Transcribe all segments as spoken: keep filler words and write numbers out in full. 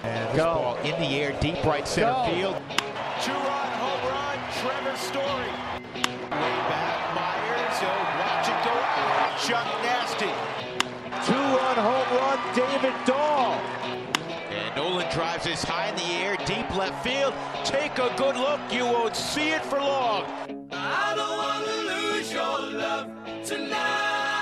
And this Go. ball in the air, deep right center Go. field. Two-run home run, Trevor Story. Way back, Myers. So watch it go out. Chuck Nasty. Two-run home run, David Dahl. And Nolan drives this high in the air, deep left field. Take a good look. You won't see it for long. I don't want to lose your love tonight.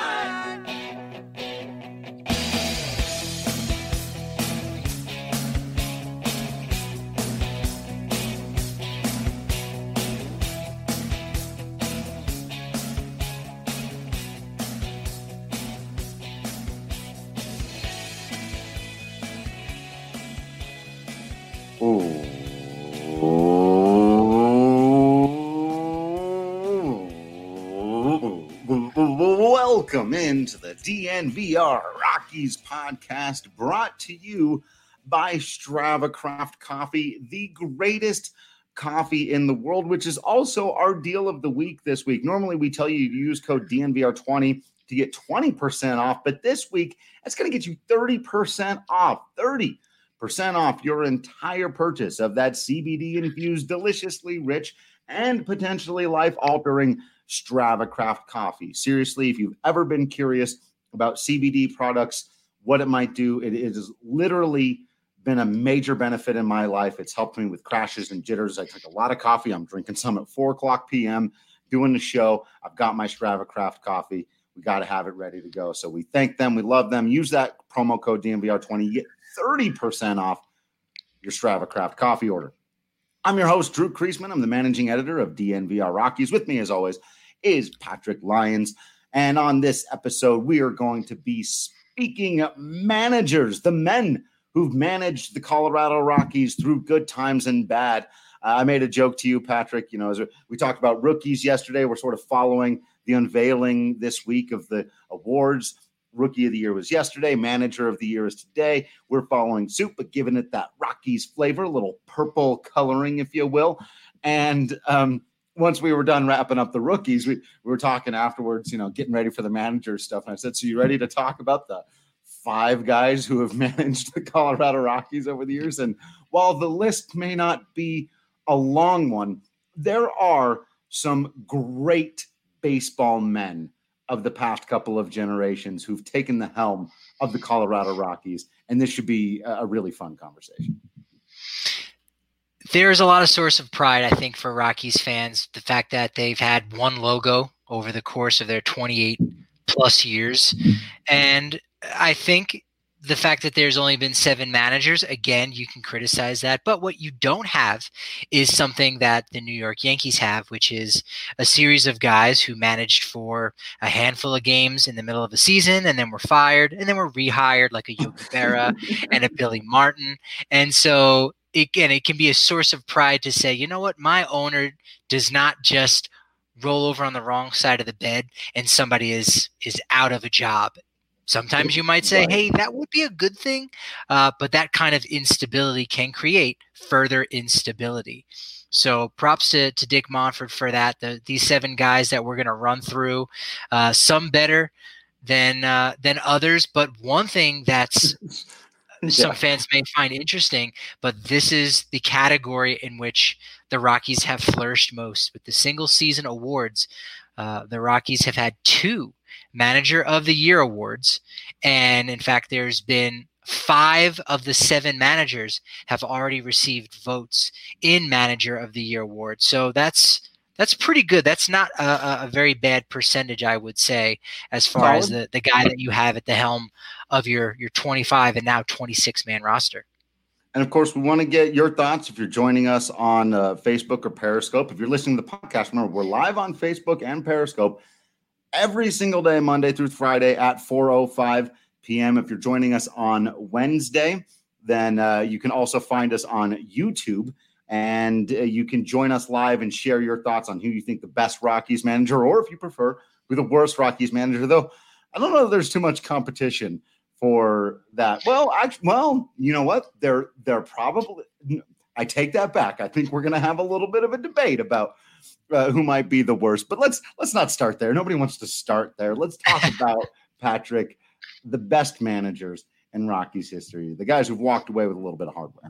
Welcome into the D N V R Rockies podcast, brought to you by Strava Craft Coffee, the greatest coffee in the world, which is also our deal of the week this week. Normally, we tell you to use code D N V R twenty to get twenty percent off, but this week, that's going to get you thirty percent off, thirty percent off your entire purchase of that C B D-infused, deliciously rich, and potentially life-altering Strava Craft Coffee. Seriously, if you've ever been curious about C B D products, what it might do, it, it has literally been a major benefit in my life. It's helped me with crashes and jitters. I took a lot of coffee. I'm drinking some at four o'clock p.m., doing the show. I've got my Strava Craft Coffee. We got to have it ready to go. So we thank them. We love them. Use that promo code D N V R twenty. You get thirty percent off your Strava Craft Coffee order. I'm your host, Drew Kreisman. I'm the managing editor of D N V R Rockies. With me, as always, is Patrick Lyons. And on this episode, we are going to be speaking of managers, the men who've managed the Colorado Rockies through good times and bad. Uh, I made a joke to you, Patrick. You know, as we talked about rookies yesterday, we're sort of following the unveiling this week of the awards. Rookie of the Year was yesterday. Manager of the Year is today. We're following suit, but giving it that Rockies flavor, a little purple coloring, if you will. And um, once we were done wrapping up the rookies, we, we were talking afterwards, you know, getting ready for the manager stuff. And I said, so you ready to talk about the five guys who have managed the Colorado Rockies over the years? And while the list may not be a long one, there are some great baseball men of the past couple of generations who've taken the helm of the Colorado Rockies. And this should be a really fun conversation. There's a lot of source of pride, I think, for Rockies fans. The fact that they've had one logo over the course of their twenty-eight plus years. And I think the fact that there's only been seven managers, again, you can criticize that. But what you don't have is something that the New York Yankees have, which is a series of guys who managed for a handful of games in the middle of a season and then were fired and then were rehired, like a Yogi Berra and a Billy Martin. And so, again, it can be a source of pride to say, you know what, my owner does not just roll over on the wrong side of the bed and somebody is is out of a job. Sometimes you might say, hey, that would be a good thing, uh, but that kind of instability can create further instability. So props to, to Dick Monfort for that. The, these seven guys that we're going to run through, uh, some better than uh, than others, but one thing that's yeah. some fans may find interesting, but this is the category in which the Rockies have flourished most. With the single season awards, uh, the Rockies have had two Manager of the Year awards. And in fact, there's been five of the seven managers have already received votes in Manager of the Year award. So that's that's pretty good. That's not a, a very bad percentage, I would say, as far Solid. as the, the guy that you have at the helm of your, your twenty-five and now twenty-six man roster. And of course, we want to get your thoughts if you're joining us on uh, Facebook or Periscope. If you're listening to the podcast, remember, we're live on Facebook and Periscope every single day, Monday through Friday at four oh five p.m. If you're joining us on Wednesday, then uh, you can also find us on YouTube, and uh, you can join us live and share your thoughts on who you think the best Rockies manager, or if you prefer, who the worst Rockies manager. Though I don't know if there's too much competition for that. Well, actually, well, you know what? They're they're probably. I take that back. I think we're going to have a little bit of a debate about Uh, who might be the worst, but let's let's not start there. Nobody wants to start there. Let's talk about, Patrick, the best managers in Rockies history? The guys who've walked away with a little bit of hardware.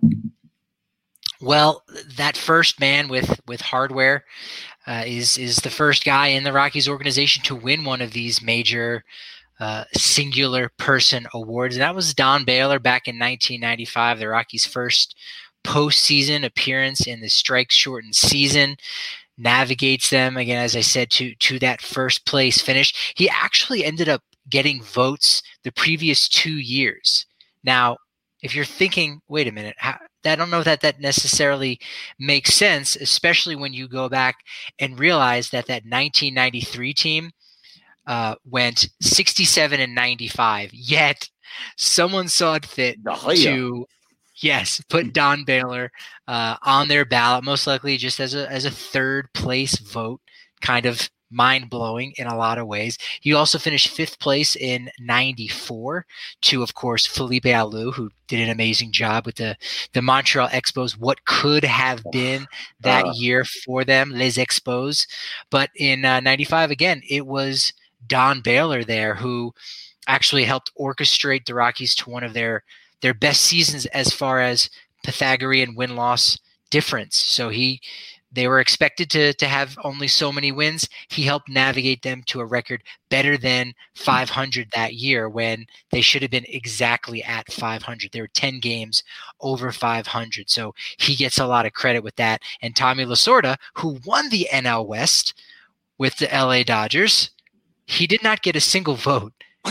Well, that first man with with hardware uh, is is the first guy in the Rockies organization to win one of these major uh, singular person awards. And that was Don Baylor back in nineteen ninety-five, the Rockies' first postseason appearance in the strike-shortened season. Navigates them, again, as I said, to to that first place finish. He actually ended up getting votes the previous two years. Now, if you're thinking, wait a minute, how, I don't know that that necessarily makes sense, especially when you go back and realize that that nineteen ninety-three team uh, went sixty-seven and ninety-five, yet someone saw it fit to, yes, put Don Baylor uh, on their ballot, most likely just as a as a third place vote, kind of mind-blowing in a lot of ways. He also finished fifth place in ninety-four to, of course, Felipe Alou, who did an amazing job with the, the Montreal Expos, what could have been that uh, year for them, Les Expos. But in uh, ninety-five, again, it was Don Baylor there who actually helped orchestrate the Rockies to one of their, their best seasons as far as Pythagorean win-loss difference. So he They were expected to to have only so many wins. He helped navigate them to a record better than five hundred that year when they should have been exactly at five hundred. They were ten games over five hundred. So he gets a lot of credit with that. And Tommy Lasorda, who won the N L West with the L A Dodgers, he did not get a single vote.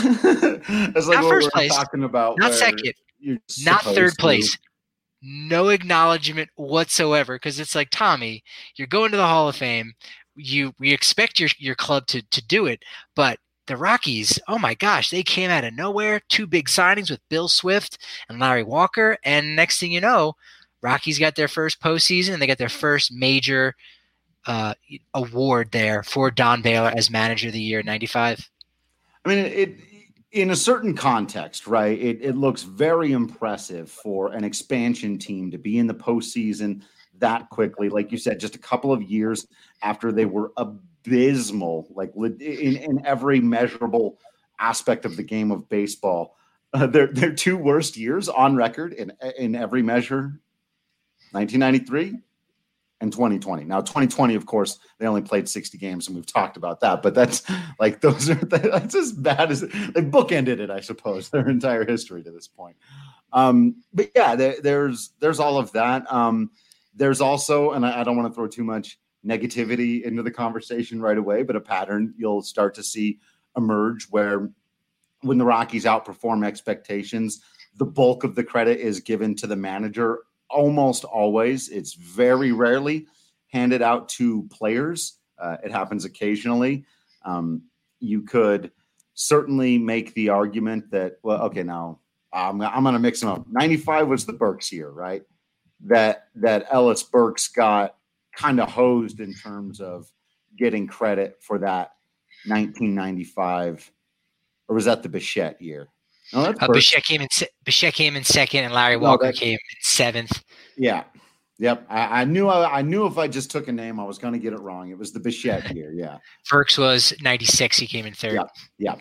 That's like not what first we're place, talking about. not second, not third to. place. No acknowledgement whatsoever, because it's like, Tommy, you're going to the Hall of Fame. You we expect your your club to to do it, but the Rockies, oh my gosh, they came out of nowhere. Two big signings with Bill Swift and Larry Walker, and next thing you know, Rockies got their first postseason and they got their first major uh, award there for Don Baylor as Manager of the Year in ninety-five. I mean, it. In a certain context, right, it, it looks very impressive for an expansion team to be in the postseason that quickly. Like you said, just a couple of years after they were abysmal, like in, in every measurable aspect of the game of baseball. Uh, their, their two worst years on record in, in every measure, nineteen ninety-three and twenty twenty. Now, twenty twenty, of course, they only played sixty games, and we've talked about that. But that's like those are that's as bad as they bookended it, I suppose, their entire history to this point. Um, but yeah, there, there's there's all of that. Um, there's also, and I, I don't want to throw too much negativity into the conversation right away, but a pattern you'll start to see emerge where when the Rockies outperform expectations, the bulk of the credit is given to the manager. Almost always. It's very rarely handed out to players. Uh, it happens occasionally. Um, you could certainly make the argument that, well, okay, now I'm, I'm going to mix them up. ninety-five was the Burks year, right? That that Ellis Burks got kind of hosed in terms of getting credit for that nineteen ninety-five, or was that the Bichette year? No, that's uh, Bichette came in. Bichette came in second, and Larry Walker no, came in seventh. Yeah, yep. I, I knew. I, I knew if I just took a name, I was going to get it wrong. It was the Bichette year. Yeah. Burks was ninety-six. He came in third. Yeah. Yeah.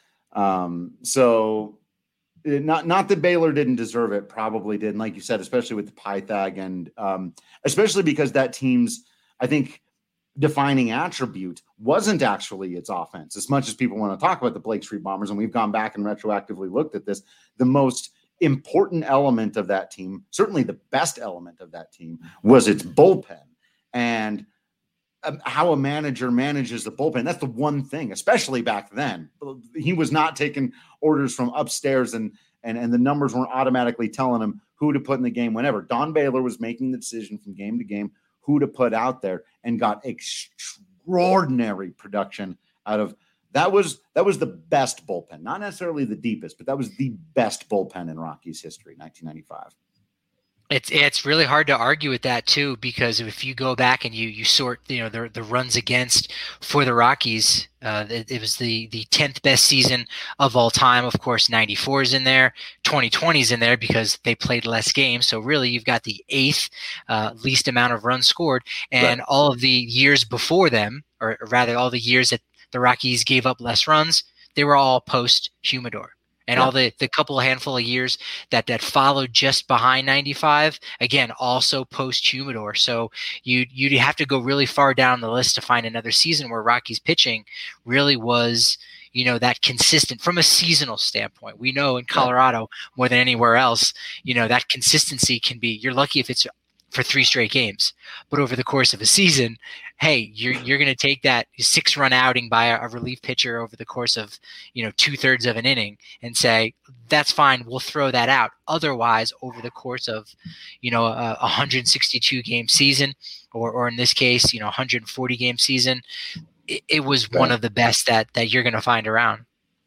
Um, so, it, not not that Baylor didn't deserve it. Probably did, and like you said, especially with the Pythag, and um, especially because that team's, I think, defining attribute wasn't actually its offense. As much as people want to talk about the Blake Street Bombers, and we've gone back and retroactively looked at this, the most important element of that team, certainly the best element of that team, was its bullpen. And um, how a manager manages the bullpen, that's the one thing, especially back then. He was not taking orders from upstairs, and and, and the numbers weren't automatically telling him who to put in the game whenever. Don Baylor was making the decision from game to game who to put out there, and got extraordinary production out of that. Was that was the best bullpen, not necessarily the deepest, but that was the best bullpen in Rockies history, nineteen ninety-five. It's it's really hard to argue with that too, because if you go back and you you sort you know the the runs against for the Rockies, uh, it, it was the the tenth best season of all time. Of course, ninety-four is in there, twenty twenty is in there because they played less games. So really, you've got the eighth uh, least amount of runs scored, and right. all of the years before them, or rather, all the years that the Rockies gave up less runs, they were all post Humidor. And yeah. all the, the couple of handful of years that, that followed just behind ninety-five, again, also post-Humidor. So you, you'd have to go really far down the list to find another season where Rocky's pitching really was, you know, that consistent from a seasonal standpoint. We know in Colorado more than anywhere else, you know, that consistency can be, you're lucky if it's for three straight games, but over the course of a season, hey, you're you're going to take that six run outing by a, a relief pitcher over the course of, you know, two thirds of an inning and say, that's fine. We'll throw that out. Otherwise, over the course of, you know, a one hundred sixty-two game season, or, or in this case, you know, one hundred forty game season, it, it was right. one of the best that, that you're going to find around.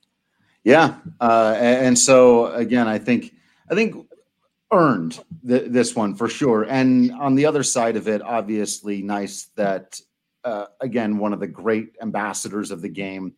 Yeah. Uh, and, and so again, I think, I think, earned th- this one for sure. And on the other side of it, obviously nice that, uh, again, one of the great ambassadors of the game,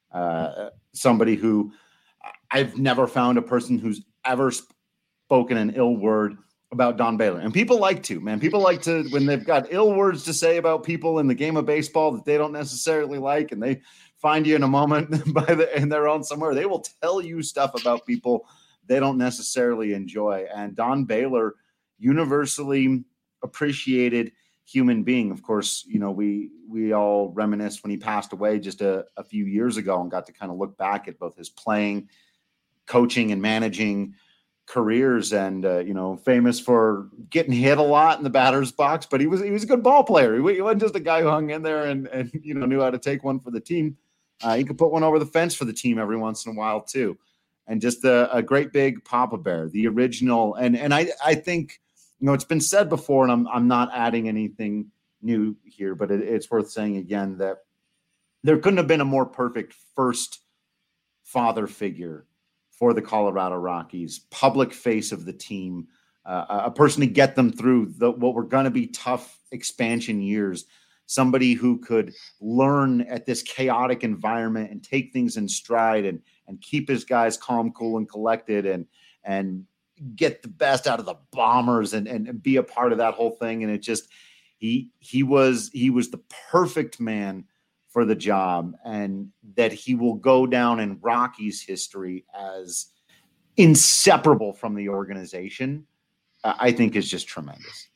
uh, somebody who I've never found a person who's ever spoken an ill word about Don Baylor. And people like to, man, people like to, when they've got ill words to say about people in the game of baseball that they don't necessarily like, and they find you in a moment by the, in their own somewhere, they will tell you stuff about people they don't necessarily enjoy. And Don Baylor, universally appreciated human being. Of course, you know, we we all reminisce when he passed away just a, a few years ago and got to kind of look back at both his playing, coaching, and managing careers. And, uh, you know, famous for getting hit a lot in the batter's box, but he was he was a good ball player. He, he wasn't just a guy who hung in there and, and you know, knew how to take one for the team. Uh, he could put one over the fence for the team every once in a while, too. And just a, a great big Papa Bear, the original. And and I, I think, you know, it's been said before, and I'm I'm not adding anything new here, but it, it's worth saying again that there couldn't have been a more perfect first father figure for the Colorado Rockies, public face of the team, uh, a person to get them through the, what were going to be tough expansion years, somebody who could learn at this chaotic environment and take things in stride and and keep his guys calm, cool, and collected, and and get the best out of the Bombers and, and, and be a part of that whole thing. And it just, he he was he was the perfect man for the job, and that he will go down in Rockies history as inseparable from the organization, uh, I think is just tremendous.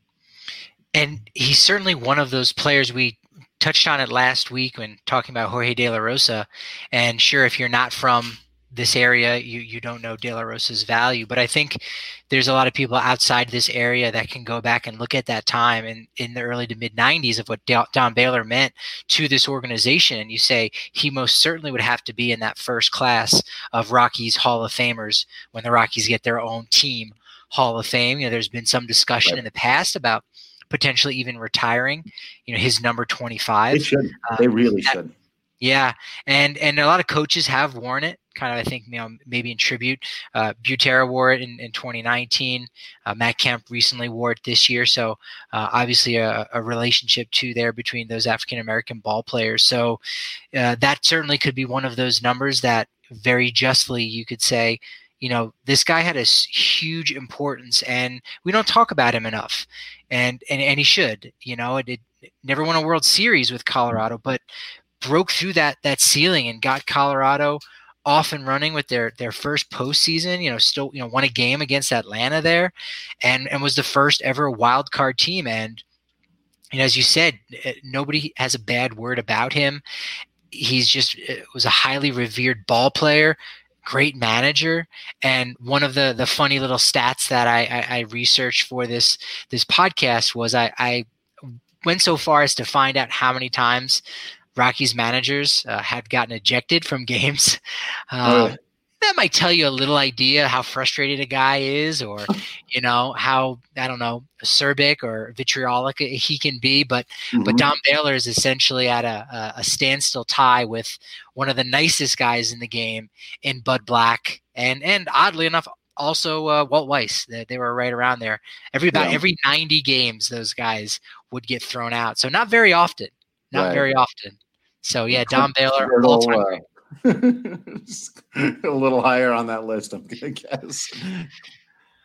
And he's certainly one of those players. We touched on it last week when talking about Jorge De La Rosa. And sure, if you're not from this area, you, you don't know De La Rosa's value. But I think there's a lot of people outside this area that can go back and look at that time in, in the early to mid nineties of what Don Baylor meant to this organization. And you say he most certainly would have to be in that first class of Rockies Hall of Famers when the Rockies get their own team Hall of Fame. You know, there's been some discussion right. in the past about potentially even retiring, you know, his number twenty-five. They should. Um, they really that, should. Yeah. And, and a lot of coaches have worn it kind of, I think, you know, maybe in tribute. Uh, Butera wore it in, in twenty nineteen. Uh, Matt Kemp recently wore it this year. So uh, obviously a, a relationship too there between those African-American ball players. So uh, that certainly could be one of those numbers that very justly you could say, you know, this guy had a huge importance and we don't talk about him enough. And, and, and he should, you know, it, it never won a World Series with Colorado, but broke through that, that ceiling and got Colorado off and running with their, their first postseason, you know, still, you know, won a game against Atlanta there and, and was the first ever wild card team. And, and as you said, nobody has a bad word about him. He's just was a highly revered ball player, great manager. And one of the the funny little stats that I, I, I researched for this this podcast was I, I went so far as to find out how many times Rockies managers uh, had gotten ejected from games. Um, oh. That might tell you a little idea how frustrated a guy is, or, you know, how, I don't know, acerbic or vitriolic he can be. But mm-hmm. but Don Baylor is essentially at a, a standstill tie with one of the nicest guys in the game in Bud Black. And, and oddly enough, also uh, Walt Weiss. They, they were right around there. Every, about yeah. every ninety games, those guys would get thrown out. So not very often. Not right. very often. So, yeah, Don Baylor, all-time great. A little higher on that list, I'm gonna guess.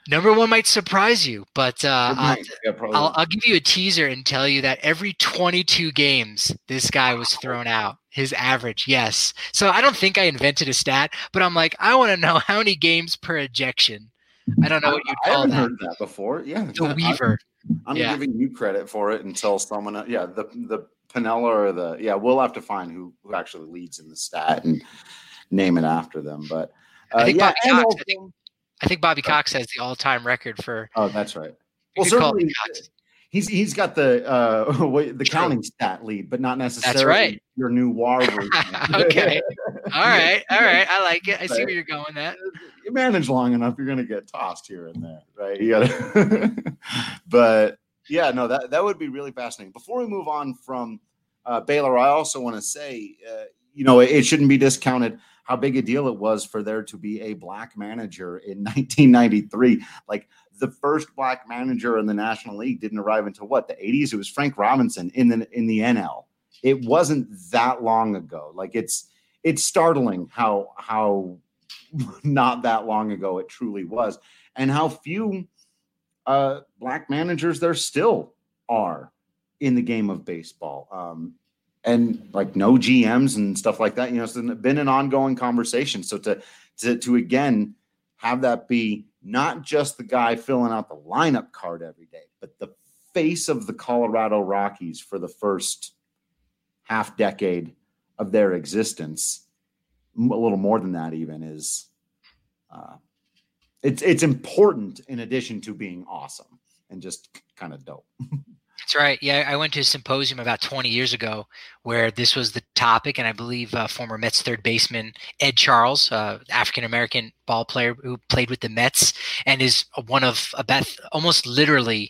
Number one might surprise you, but uh, I'll, yeah, I'll, I'll give you a teaser and tell you that every twenty-two games, this guy was thrown out. His average, yes. So I don't think I invented a stat, but I'm like, I want to know how many games per ejection. I don't know what you'd call I haven't that. heard that before. Yeah, The Weaver. I'm, I'm yeah. giving you credit for it until someone. Yeah, the the Pinella or the yeah, we'll have to find who who actually leads in the stat and name it after them. But uh, I think yeah, Bobby Cox. I think, I think Bobby Cox has the all-time record for. Oh, that's right. Well, certainly he's he's got the uh, the True. counting stat lead, but not necessarily that's right. your new W A R version. Okay. All right. All right. I like it. I see where you're going at. You manage long enough, you're going to get tossed here and there, right? You gotta but yeah, no, that, that would be really fascinating. Before we move on from uh, Baylor, I also want to say, uh, you know, it, it shouldn't be discounted how big a deal it was for there to be a black manager in nineteen ninety-three. Like the first black manager in the National League didn't arrive until what, the eighties? It was Frank Robinson in the in the N L. It wasn't that long ago. Like it's it's startling how how not that long ago it truly was, and how few uh, black managers there still are in the game of baseball. Um, and like no G Ms and stuff like that, you know, it's been an ongoing conversation. So to, to, to again, have that be not just the guy filling out the lineup card every day, but the face of the Colorado Rockies for the first half decade of their existence, a little more than that even, is uh, it's, it's important in addition to being awesome and just kind of dope. That's right. Yeah, I went to a symposium about twenty years ago where this was the topic, and I believe uh, former Mets third baseman Ed Charles, uh, African-American ball player who played with the Mets and is one of about almost literally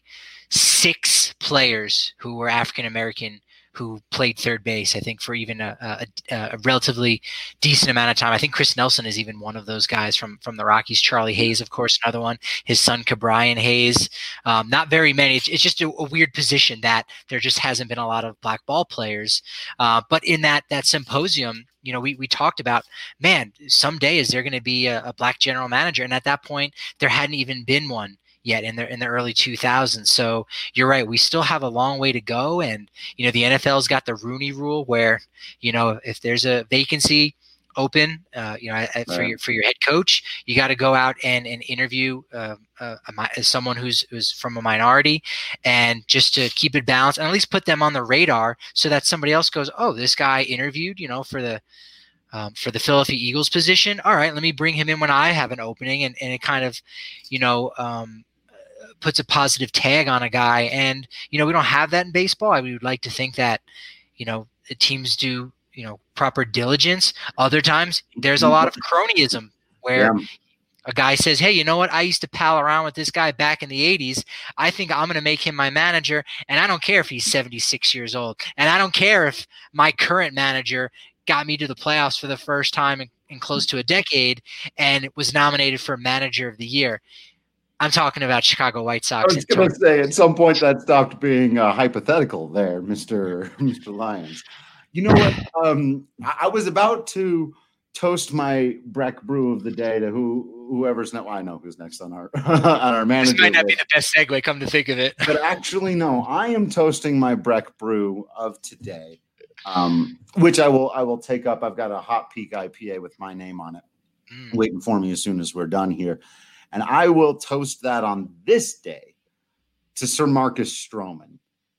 six players who were African-American who played third base, I think, for even a, a, a relatively decent amount of time. I think Chris Nelson is even one of those guys from, from the Rockies. Charlie Hayes, of course, another one. His son, Cabrian Hayes. Um, not very many. It's, it's just a, a weird position that there just hasn't been a lot of black ball players. Uh, but in that that symposium, you know, we, we talked about, man, someday is there going to be a, a black general manager? And at that point, there hadn't even been one yet in the in the early two thousands. So you're right, we still have a long way to go. And you know, the N F L's got the Rooney Rule where, you know, if there's a vacancy open, uh, you know, right. for your for your head coach, you got to go out and and interview uh, uh, a, someone who's who's from a minority, and just to keep it balanced and at least put them on the radar so that somebody else goes, oh, this guy interviewed, you know, for the Um, for the Philadelphia Eagles position. All right, let me bring him in when I have an opening, and, and it kind of, you know, um, puts a positive tag on a guy. And, you know, we don't have that in baseball. I would like to think that, you know, the teams do, you know, proper diligence. Other times there's a lot of cronyism where yeah. a guy says, hey, you know what? I used to pal around with this guy back in the eighties. I think I'm going to make him my manager. And I don't care if he's seventy-six years old. And I don't care if my current manager got me to the playoffs for the first time in, in close to a decade and it was nominated for manager of the year. I'm talking about Chicago White Sox. I was going to say, at some point that stopped being uh, hypothetical there, Mister Mister Lyons. You know what? Um, I, I was about to toast my Breck Brew of the day to who whoever's next. Well, I know who's next on our on our manager. This might not list. be the best segue, come to think of it. But actually, no. I am toasting my Breck Brew of today, um, which I will I will take up. I've got a Hot Peak I P A with my name on it, mm. waiting for me as soon as we're done here. And I will toast that on this day to Sir Marcus Stroman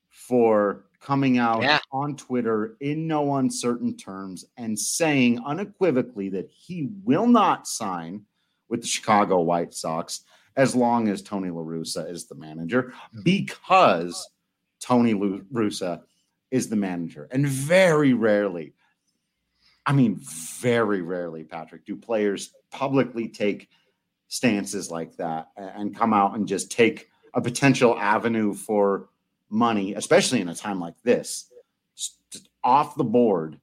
for coming out yeah. on Twitter in no uncertain terms and saying unequivocally that he will not sign with the Chicago White Sox as long as Tony La Russa is the manager, because Tony La Russa is the manager. And very rarely, I mean, very rarely, Patrick, do players publicly take stances like that and come out and just take a potential avenue for money, especially in a time like this, just off the board.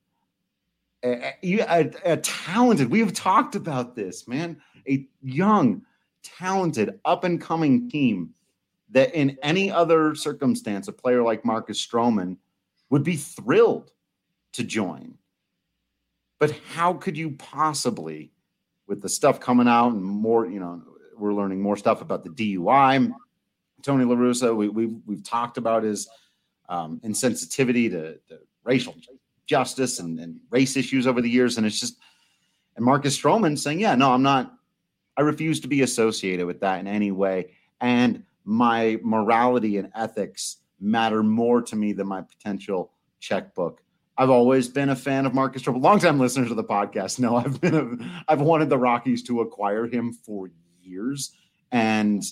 A, a, a talented, we've talked about this, man, a young, talented, up-and-coming team that in any other circumstance, a player like Marcus Stroman would be thrilled to join. But how could you possibly, with the stuff coming out and more, you know, we're learning more stuff about the D U I. Tony La Russa, we, we've, we've talked about his um, insensitivity to, to racial justice and, and race issues over the years. And it's just, and Marcus Stroman saying, yeah, no, I'm not, I refuse to be associated with that in any way. And my morality and ethics matter more to me than my potential checkbook. I've always been a fan of Marcus Stroman. Longtime listeners of the podcast know I've been, a, I've wanted the Rockies to acquire him for years, and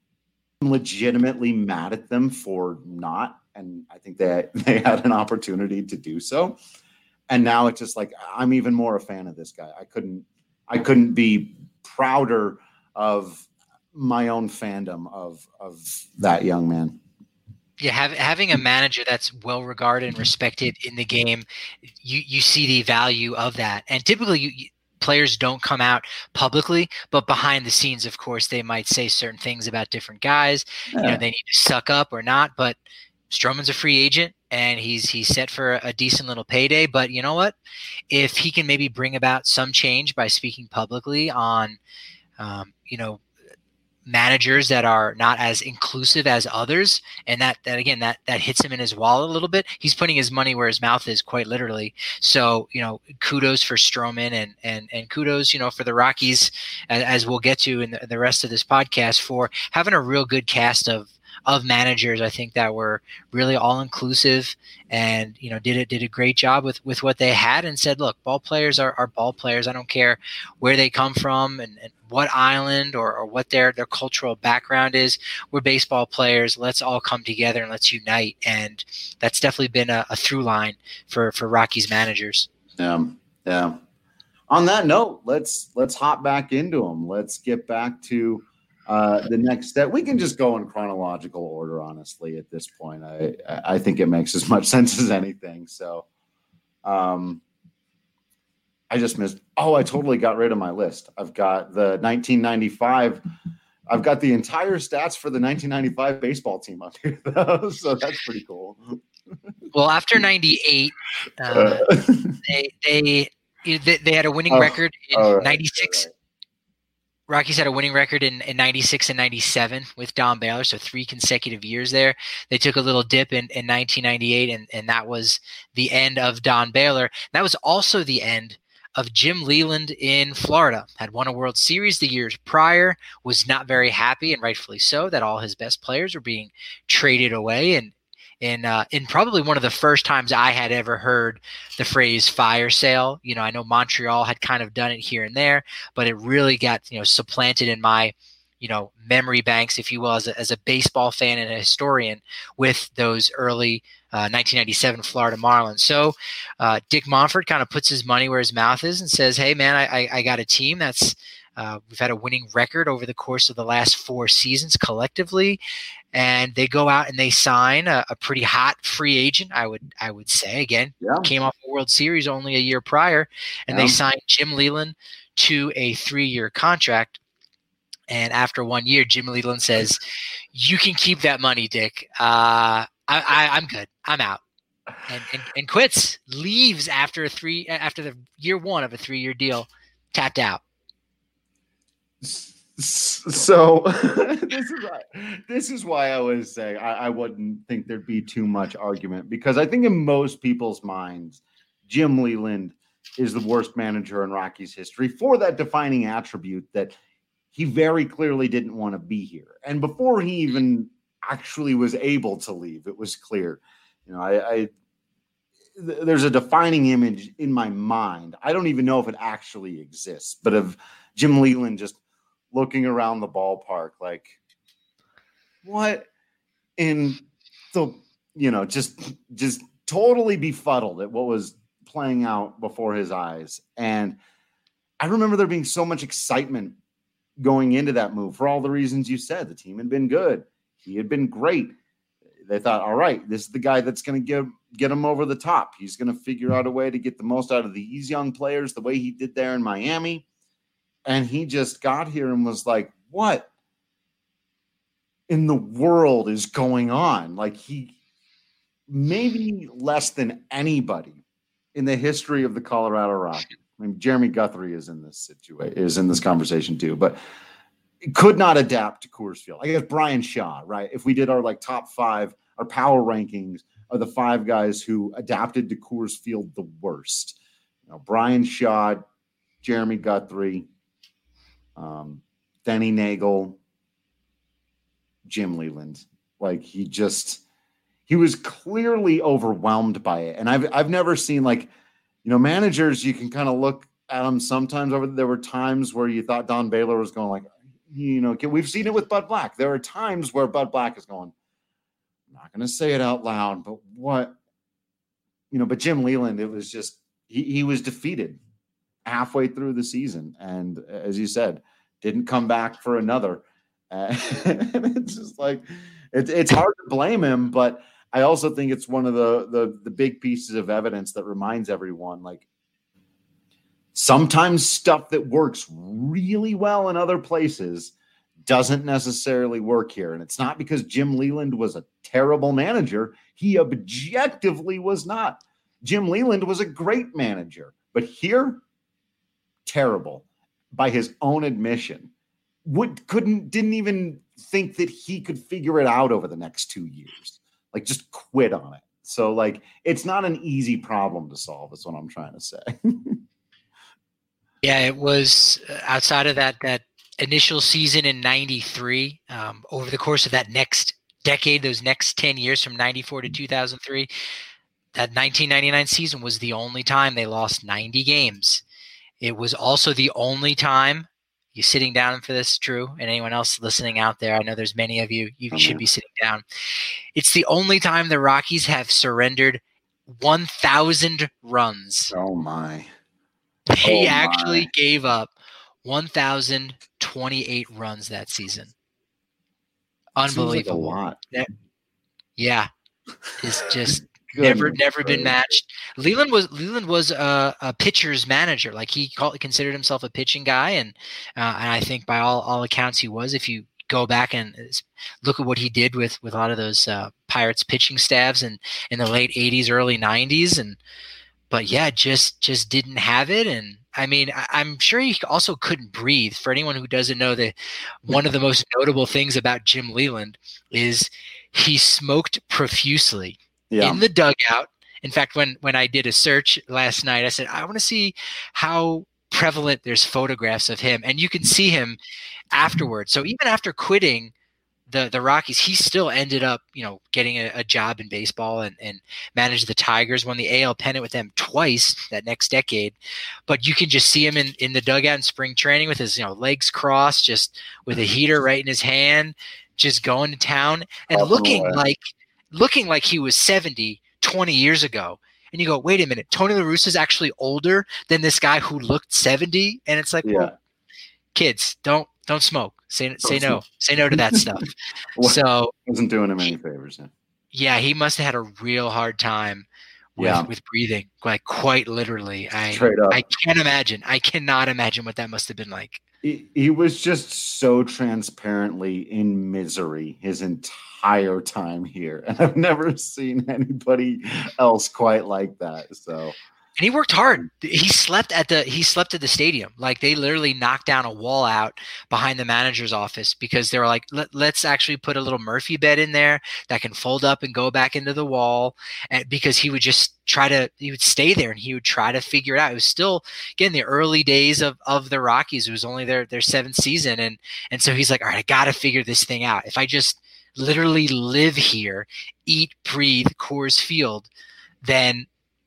I'm legitimately mad at them for not. And I think that they, they had an opportunity to do so. And now it's just like, I'm even more a fan of this guy. I couldn't, I couldn't be prouder of my own fandom of, of that young man. Yeah, have, having a manager that's well regarded and respected in the game, you you see the value of that. And typically, you, you, players don't come out publicly, but behind the scenes, of course, they might say certain things about different guys. Yeah. You know, they need to suck up or not. But Stroman's a free agent, and he's he's set for a decent little payday. But you know what? If he can maybe bring about some change by speaking publicly on, um, you know. managers that are not as inclusive as others, and that that again that that hits him in his wallet a little bit. He's putting his money where his mouth is, quite literally. So you know, kudos for Stroman, and and and kudos, you know, for the Rockies, as, as we'll get to in the, the rest of this podcast, for having a real good cast of of managers. I think that were really all inclusive, and you know, did it did a great job with with what they had, and said, look, ball players are, are ball players. I don't care where they come from and, and what island or, or what their their cultural background is. We're baseball players. Let's all come together and let's unite. And that's definitely been a, a through line for for Rockies managers. Yeah, yeah. On that note, let's let's hop back into them. Let's get back to Uh, the next step. We can just go in chronological order, honestly, at this point. I I think it makes as much sense as anything. So um, I just missed. Oh, I totally got rid of my list. I've got the nineteen ninety-five. I've got the entire stats for the nineteen ninety-five baseball team up here, though. So that's pretty cool. Well, after ninety-eight, uh, they, they they they had a winning oh, record in right, ninety-six. Right. Rockies had a winning record in, in ninety-six and ninety-seven with Don Baylor, so three consecutive years there. They took a little dip in, in nineteen ninety-eight, and, and that was the end of Don Baylor. That was also the end of Jim Leyland in Florida. Had won a World Series the years prior, was not very happy, and rightfully so, that all his best players were being traded away. And in uh, in probably one of the first times I had ever heard the phrase fire sale. You know, I know Montreal had kind of done it here and there, but it really got, you know, supplanted in my, you know, memory banks, if you will, as a, as a baseball fan and a historian, with those early uh, nineteen ninety-seven Florida Marlins. So uh, Dick Monfort kind of puts his money where his mouth is and says, hey, man, I, I, I got a team that's uh, we've had a winning record over the course of the last four seasons collectively. And they go out and they sign a, a pretty hot free agent, I would I would say. Again, yeah. Came off a World Series only a year prior, and yeah. They signed Jim Leyland to a three-year contract. And after one year, Jim Leyland says, "You can keep that money, Dick. Uh, I, I, I'm good. I'm out," and, and and quits. Leaves after a three after the year one of a three-year deal, tapped out. So this is why, this is why I always say I, I wouldn't think there'd be too much argument, because I think in most people's minds, Jim Leyland is the worst manager in Rockies history for that defining attribute that he very clearly didn't want to be here. And before he even actually was able to leave, it was clear. You know, I, I th- there's a defining image in my mind. I don't even know if it actually exists, but of Jim Leyland just looking around the ballpark like, what in the, you know, just just totally befuddled at what was playing out before his eyes. And I remember there being so much excitement going into that move for all the reasons you said. The team had been good. He had been great. They thought, all right, this is the guy that's going to get, get him over the top. He's going to figure out a way to get the most out of these young players the way he did there in Miami. And he just got here and was like, what in the world is going on? Like, he maybe less than anybody in the history of the Colorado Rockies. I mean, Jeremy Guthrie is in this situation, is in this conversation too. But could not adapt to Coors Field. I guess Brian Shaw, right? If we did our like top five, our power rankings are the five guys who adapted to Coors Field the worst. You know, Brian Shaw, Jeremy Guthrie, um, Denny Nagel, Jim Leland. Like he just, he was clearly overwhelmed by it. And I've, I've never seen like, you know, managers, you can kind of look at them sometimes over. There were times where you thought Don Baylor was going like, you know, we've seen it with Bud Black. There are times where Bud Black is going, I'm not going to say it out loud, but what, you know, but Jim Leland, it was just, he, he was defeated halfway through the season. And as you said, didn't come back for another. Uh, and it's just like, it, it's hard to blame him, but I also think it's one of the, the, the big pieces of evidence that reminds everyone, like, sometimes stuff that works really well in other places doesn't necessarily work here. And it's not because Jim Leland was a terrible manager. He objectively was not. Jim Leland was a great manager, but here, terrible by his own admission. Would couldn't didn't even think that he could figure it out over the next two years. Like just quit on it. So like it's not an easy problem to solve, is what I'm trying to say. Yeah, it was outside of that that initial season in ninety-three, um, over the course of that next decade, those next ten years from ninety-four to two thousand three, that nineteen ninety-nine season was the only time they lost ninety games. It was also the only time, you sitting down for this, Drew, and anyone else listening out there, I know there's many of you, you oh, should man. be sitting down. It's the only time the Rockies have surrendered one thousand runs. Oh, my. They oh actually my. gave up one thousand twenty-eight runs that season. Unbelievable. Like a lot. That, yeah. It's just never, never been matched. Leland was Leland was a, a pitcher's manager. Like he called, considered himself a pitching guy, and uh, and I think by all, all accounts he was. If you go back and look at what he did with, with a lot of those uh, Pirates pitching staffs in, in the late eighties, early nineties, and but yeah, just just didn't have it. And I mean, I, I'm sure he also couldn't breathe. For anyone who doesn't know, that one of the most notable things about Jim Leland is he smoked profusely yeah. in the dugout. In fact, when, when I did a search last night, I said, I want to see how prevalent there's photographs of him. And you can see him afterwards. So even after quitting the, the Rockies, he still ended up, you know, getting a, a job in baseball and, and managed the Tigers, won the A L pennant with them twice that next decade. But you can just see him in, in the dugout in spring training with his, you know, legs crossed, just with a heater right in his hand, just going to town and looking like looking like he was seventy twenty years ago. And you go, wait a minute, Tony La Russa is actually older than this guy who looked seventy. And it's like, yeah. well, kids, don't don't smoke. Say don't say smoke. no. Say no to that stuff. well, so wasn't doing him any favors. Yeah, yeah he must have had a real hard time with, yeah. with breathing, like quite literally. I I can't imagine. I cannot imagine what that must have been like. He, he was just so transparently in misery his entire time here. And I've never seen anybody else quite like that. So, and he worked hard. He slept at the, he slept at the stadium. Like they literally knocked down a wall out behind the manager's office because they were like, Let, let's actually put a little Murphy bed in there that can fold up and go back into the wall. And because he would just try to, he would stay there and he would try to figure it out. It was still, again, the early days of, of the Rockies. It was only their, their seventh season. And, and so he's like, all right, I got to figure this thing out. If I just literally live here, eat, breathe Coors Field, then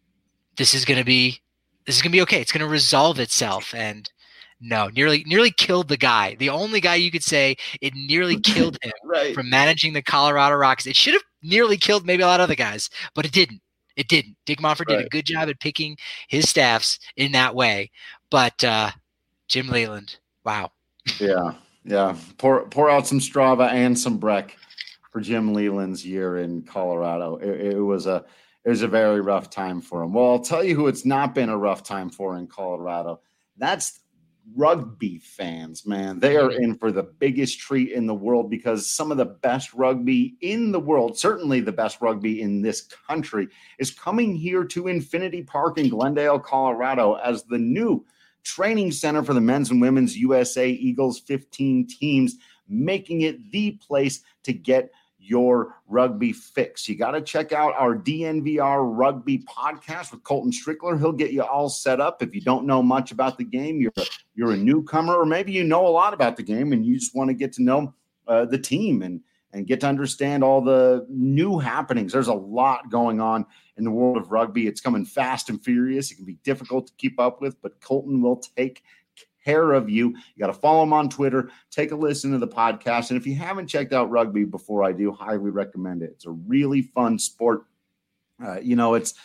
this is going to be, this is going to be okay. It's going to resolve itself. And no, nearly, nearly killed the guy. The only guy you could say it nearly killed him right. from managing the Colorado Rockies. It should have nearly killed maybe a lot of other guys, but it didn't. It didn't. Dick Monfort right. did a good job at picking his staffs in that way. But uh, Jim Leland, wow. Yeah, yeah. Pour pour out some Strava and some Breck for Jim Leland's year in Colorado. It, it was a it was a very rough time for him. Well, I'll tell you who it's not been a rough time for in Colorado. That's rugby fans, man. They are in for the biggest treat in the world because some of the best rugby in the world, certainly the best rugby in this country, is coming here to Infinity Park in Glendale, Colorado as the new training center for the men's and women's U S A Eagles fifteen teams, making it the place to get your rugby fix. You got to check out our D N V R Rugby podcast with Colton Strickler. He'll get you all set up. If you don't know much about the game, you're a, you're a newcomer, or maybe you know a lot about the game and you just want to get to know uh, the team and, and get to understand all the new happenings. There's a lot going on in the world of rugby. It's coming fast and furious. It can be difficult to keep up with, but Colton will take care of you. You got to follow him on Twitter. Take a listen to the podcast. And if you haven't checked out rugby before, I do highly recommend it. It's a really fun sport. Uh, you know, it's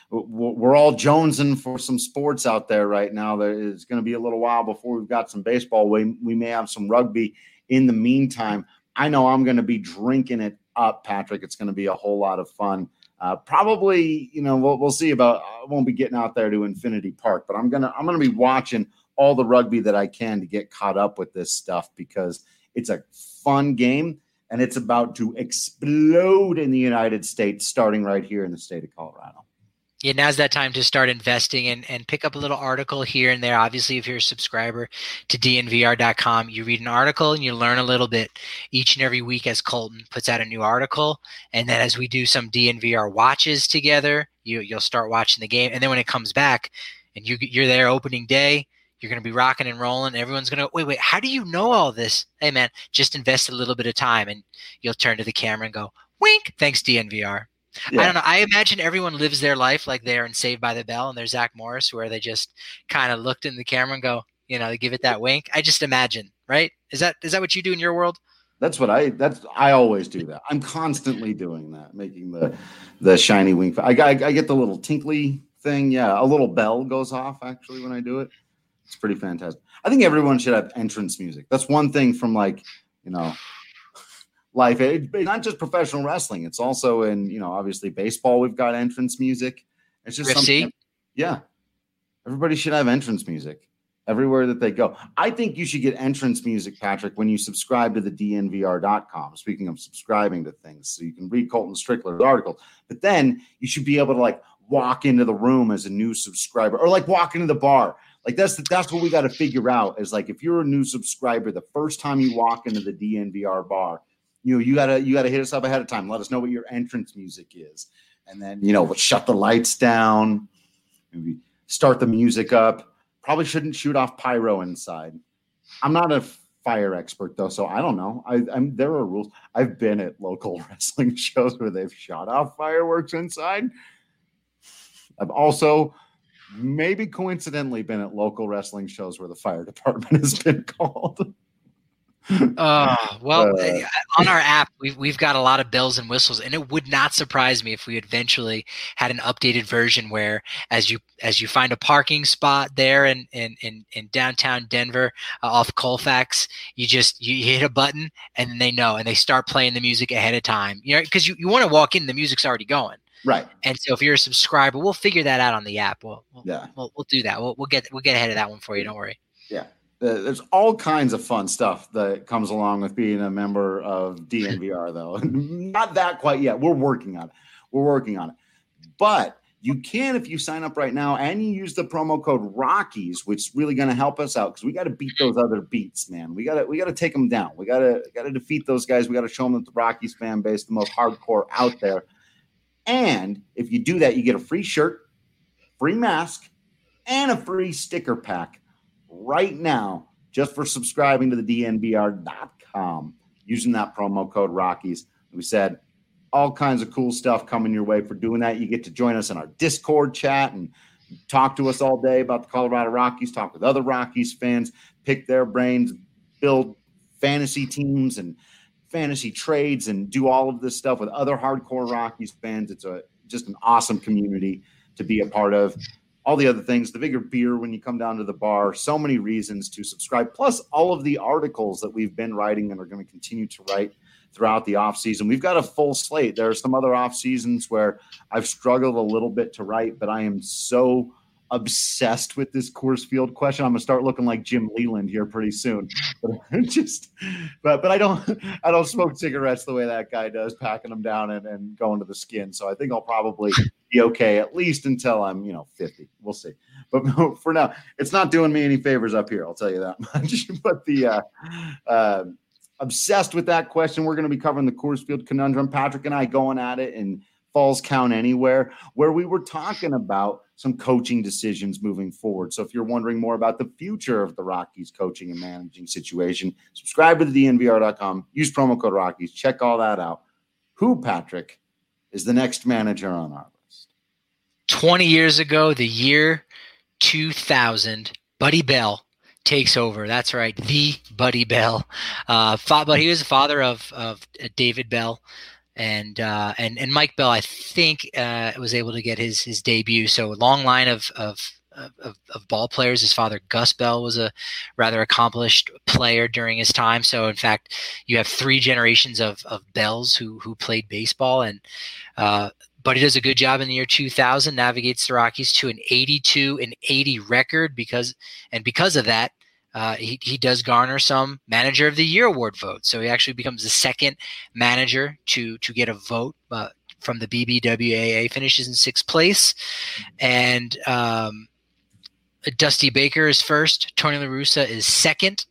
we're all jonesing for some sports out there right now. There is going to be a little while before we've got some baseball. We, we may have some rugby in the meantime. I know I'm going to be drinking it up, Patrick. It's going to be a whole lot of fun. Uh, probably, you know, we'll, we'll see about, I won't be getting out there to Infinity Park, but I'm going to, I'm going to be watching all the rugby that I can to get caught up with this stuff because it's a fun game and it's about to explode in the United States, starting right here in the state of Colorado. Yeah, now's that time to start investing and, and pick up a little article here and there. Obviously, if you're a subscriber to D N V R dot com, you read an article and you learn a little bit each and every week as Colton puts out a new article. And then as we do some D N V R watches together, you, you'll start watching the game. And then when it comes back and you, you're there opening day, you're going to be rocking and rolling. Everyone's going to, wait, wait, how do you know all this? Hey, man, just invest a little bit of time and you'll turn to the camera and go, wink, thanks, D N V R. Yeah. I don't know. I imagine everyone lives their life like they're in Saved by the Bell and there's Zach Morris, where they just kind of looked in the camera and go, you know, they give it that wink. I just imagine, right? Is that is that what you do in your world? That's what I. That's I always do that. I'm constantly doing that, making the the shiny wink. I, I, I get the little tinkly thing. Yeah, a little bell goes off actually when I do it. It's pretty fantastic. I think everyone should have entrance music. That's one thing from like you know. life, it, not just professional wrestling. It's also in, you know, obviously baseball. We've got entrance music. It's just something. That, yeah, everybody should have entrance music everywhere that they go. I think you should get entrance music, Patrick, when you subscribe to the D N V R dot com. Speaking of subscribing to things, so you can read Colton Strickler's article, but then you should be able to like walk into the room as a new subscriber, or like walk into the bar. Like that's the, that's what we got to figure out. Is like if you're a new subscriber, the first time you walk into the D N V R bar, you know, you gotta you gotta hit us up ahead of time. Let us know what your entrance music is, and then you know, we'll shut the lights down, maybe start the music up. Probably shouldn't shoot off pyro inside. I'm not a fire expert though, so I don't know. I, I'm there are rules. I've been at local wrestling shows where they've shot off fireworks inside. I've also maybe coincidentally been at local wrestling shows where the fire department has been called. Uh, well, uh, on our app, we've, we've got a lot of bells and whistles, and it would not surprise me if we eventually had an updated version where as you as you find a parking spot there in, in, in, in downtown Denver uh, off Colfax, you just you hit a button and then they know, and they start playing the music ahead of time. You know, because you, you want to walk in, the music's already going. Right. And so if you're a subscriber, we'll figure that out on the app. We'll, we'll yeah. We'll, we'll do that. We'll, we'll get we'll get ahead of that one for you. Don't worry. Yeah. Uh, there's all kinds of fun stuff that comes along with being a member of D N V R, though. Not that quite yet. We're working on it. We're working on it. But you can, if you sign up right now and you use the promo code Rockies, which is really going to help us out because we got to beat those other beats, man. We got to we got to take them down. We got to got to defeat those guys. We got to show them that the Rockies fan base, the most hardcore out there. And if you do that, you get a free shirt, free mask, and a free sticker pack right now, just for subscribing to the D N V R dot com using that promo code Rockies. We said all kinds of cool stuff coming your way for doing that. You get to join us in our Discord chat and talk to us all day about the Colorado Rockies, talk with other Rockies fans, pick their brains, build fantasy teams and fantasy trades, and do all of this stuff with other hardcore Rockies fans. It's a just an awesome community to be a part of. All the other things, the bigger beer when you come down to the bar, so many reasons to subscribe, plus all of the articles that we've been writing and are going to continue to write throughout the off season. We've got a full slate. There are some other off seasons where I've struggled a little bit to write, but I am so obsessed with this Coors Field question. I'm gonna start looking like Jim Leland here pretty soon. But just, but but I don't I don't smoke cigarettes the way that guy does, packing them down and, and going to the skin. So I think I'll probably be okay at least until I'm you know fifty. We'll see. But for now, it's not doing me any favors up here. I'll tell you that much. But the uh, uh, obsessed with that question. We're going to be covering the Coors Field conundrum. Patrick and I going at it in Falls Count Anywhere, where we were talking about some coaching decisions moving forward. So if you're wondering more about the future of the Rockies coaching and managing situation, subscribe to the D N V R dot com. Use promo code Rockies. Check all that out. Who, Patrick, is the next manager on our list? twenty years ago, the year two thousand, Buddy Bell takes over. That's right, the Buddy Bell. Uh, fa- but he was the father of of David Bell, and uh, and and Mike Bell. I think uh, was able to get his his debut. So a long line of of of, of ball players. His father Gus Bell was a rather accomplished player during his time. So in fact, you have three generations of of Bells who who played baseball, and uh, but he does a good job in the year two thousand, navigates the Rockies to an eighty-two and eighty record because, and because of that, uh, he, he does garner some Manager of the Year award votes. So he actually becomes the second manager to to get a vote uh, from the B B W A A, finishes in sixth place. And um, Dusty Baker is first, Tony La Russa is second.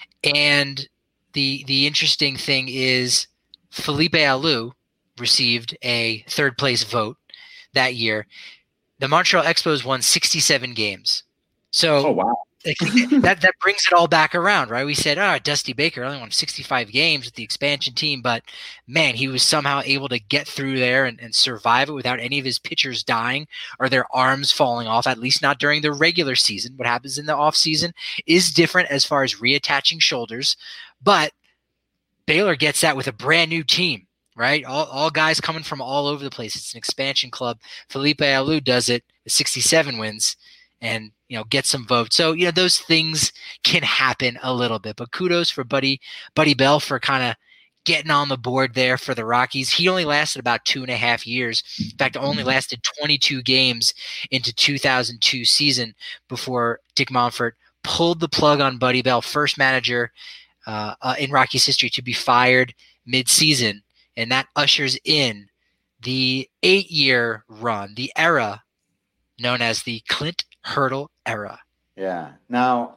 And the the interesting thing is Felipe Alou received a third place vote that year. The Montreal Expos won sixty-seven games. So oh, wow. that, that brings it all back around, right? We said, oh, Dusty Baker only won sixty-five games with the expansion team, but man, he was somehow able to get through there and, and survive it without any of his pitchers dying or their arms falling off, at least not during the regular season. What happens in the off season is different as far as reattaching shoulders, but Baylor gets that with a brand new team. Right, all all guys coming from all over the place. It's an expansion club. Felipe Alou does it, sixty-seven wins, and you know gets some votes. So you know those things can happen a little bit. But kudos for Buddy Buddy Bell for kind of getting on the board there for the Rockies. He only lasted about two and a half years. In fact, only lasted twenty-two games into two thousand two season before Dick Monfort pulled the plug on Buddy Bell, first manager uh, uh, in Rockies history to be fired mid-season. And that ushers in the eight-year run, the era known as the Clint Hurdle era. Yeah. Now,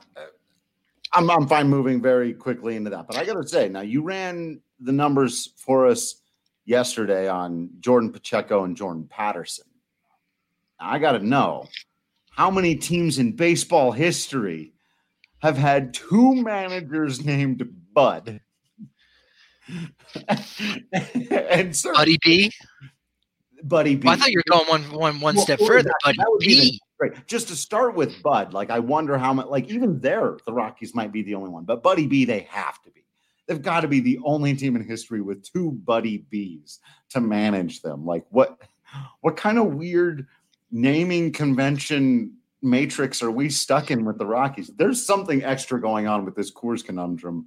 I'm I'm fine moving very quickly into that, but I got to say, now you ran the numbers for us yesterday on Jordan Pacheco and Jordan Patterson. Now, I got to know how many teams in baseball history have had two managers named Bud. and sir, Buddy B, Buddy B. Well, I thought you were going one one one well, step further. That, Buddy B, great. Just to start with Bud, like I wonder how much. Like even there, the Rockies might be the only one, but Buddy B, they have to be. They've got to be the only team in history with two Buddy Bs to manage them. Like what? What kind of weird naming convention matrix are we stuck in with the Rockies? There's something extra going on with this Coors conundrum.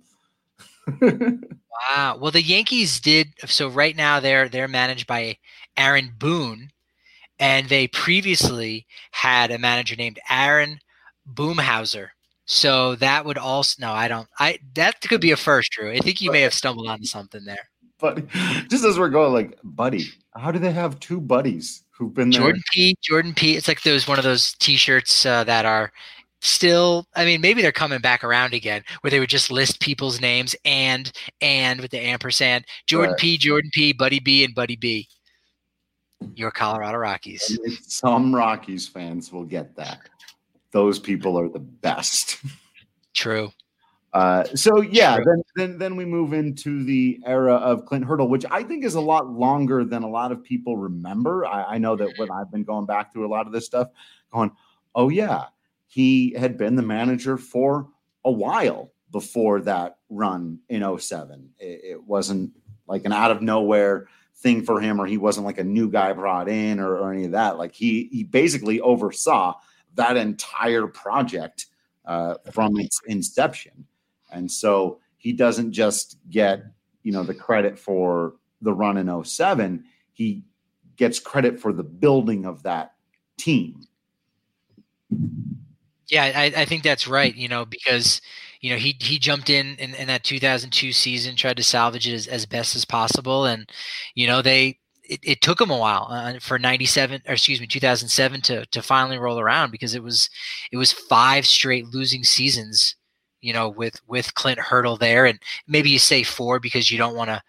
Wow. Well, the Yankees did. So right now they're they're managed by Aaron Boone, and they previously had a manager named Aaron Boomhauser. So that would also no, I don't. I that could be a first, Drew. I think you may have stumbled onto something there. But just as we're going, like, buddy, how do they have two buddies who've been there? Jordan P. Jordan P. It's like those one of those T-shirts uh, that are. Still, I mean, maybe they're coming back around again, where they would just list people's names and and with the ampersand. Jordan right. P, Jordan P, Buddy B, and Buddy B. Your Colorado Rockies. Some Rockies fans will get that. Those people are the best. True. Uh, so yeah, True. then then then we move into the era of Clint Hurdle, which I think is a lot longer than a lot of people remember. I, I know that when I've been going back through a lot of this stuff, going, oh yeah. He had been the manager for a while before that run in oh seven. It, it wasn't like an out of nowhere thing for him, or he wasn't like a new guy brought in or, or any of that. Like he he basically oversaw that entire project uh, from its inception. And so he doesn't just get, you know, the credit for the run in oh seven. He gets credit for the building of that team. Yeah, I, I think that's right. You know, because you know he he jumped in, in in that two thousand two season, tried to salvage it as, as best as possible, and you know they it, it took him a while uh, for ninety-seven or excuse me two thousand seven to to finally roll around, because it was it was five straight losing seasons. You know, with with Clint Hurdle there, and maybe you say four because you don't want to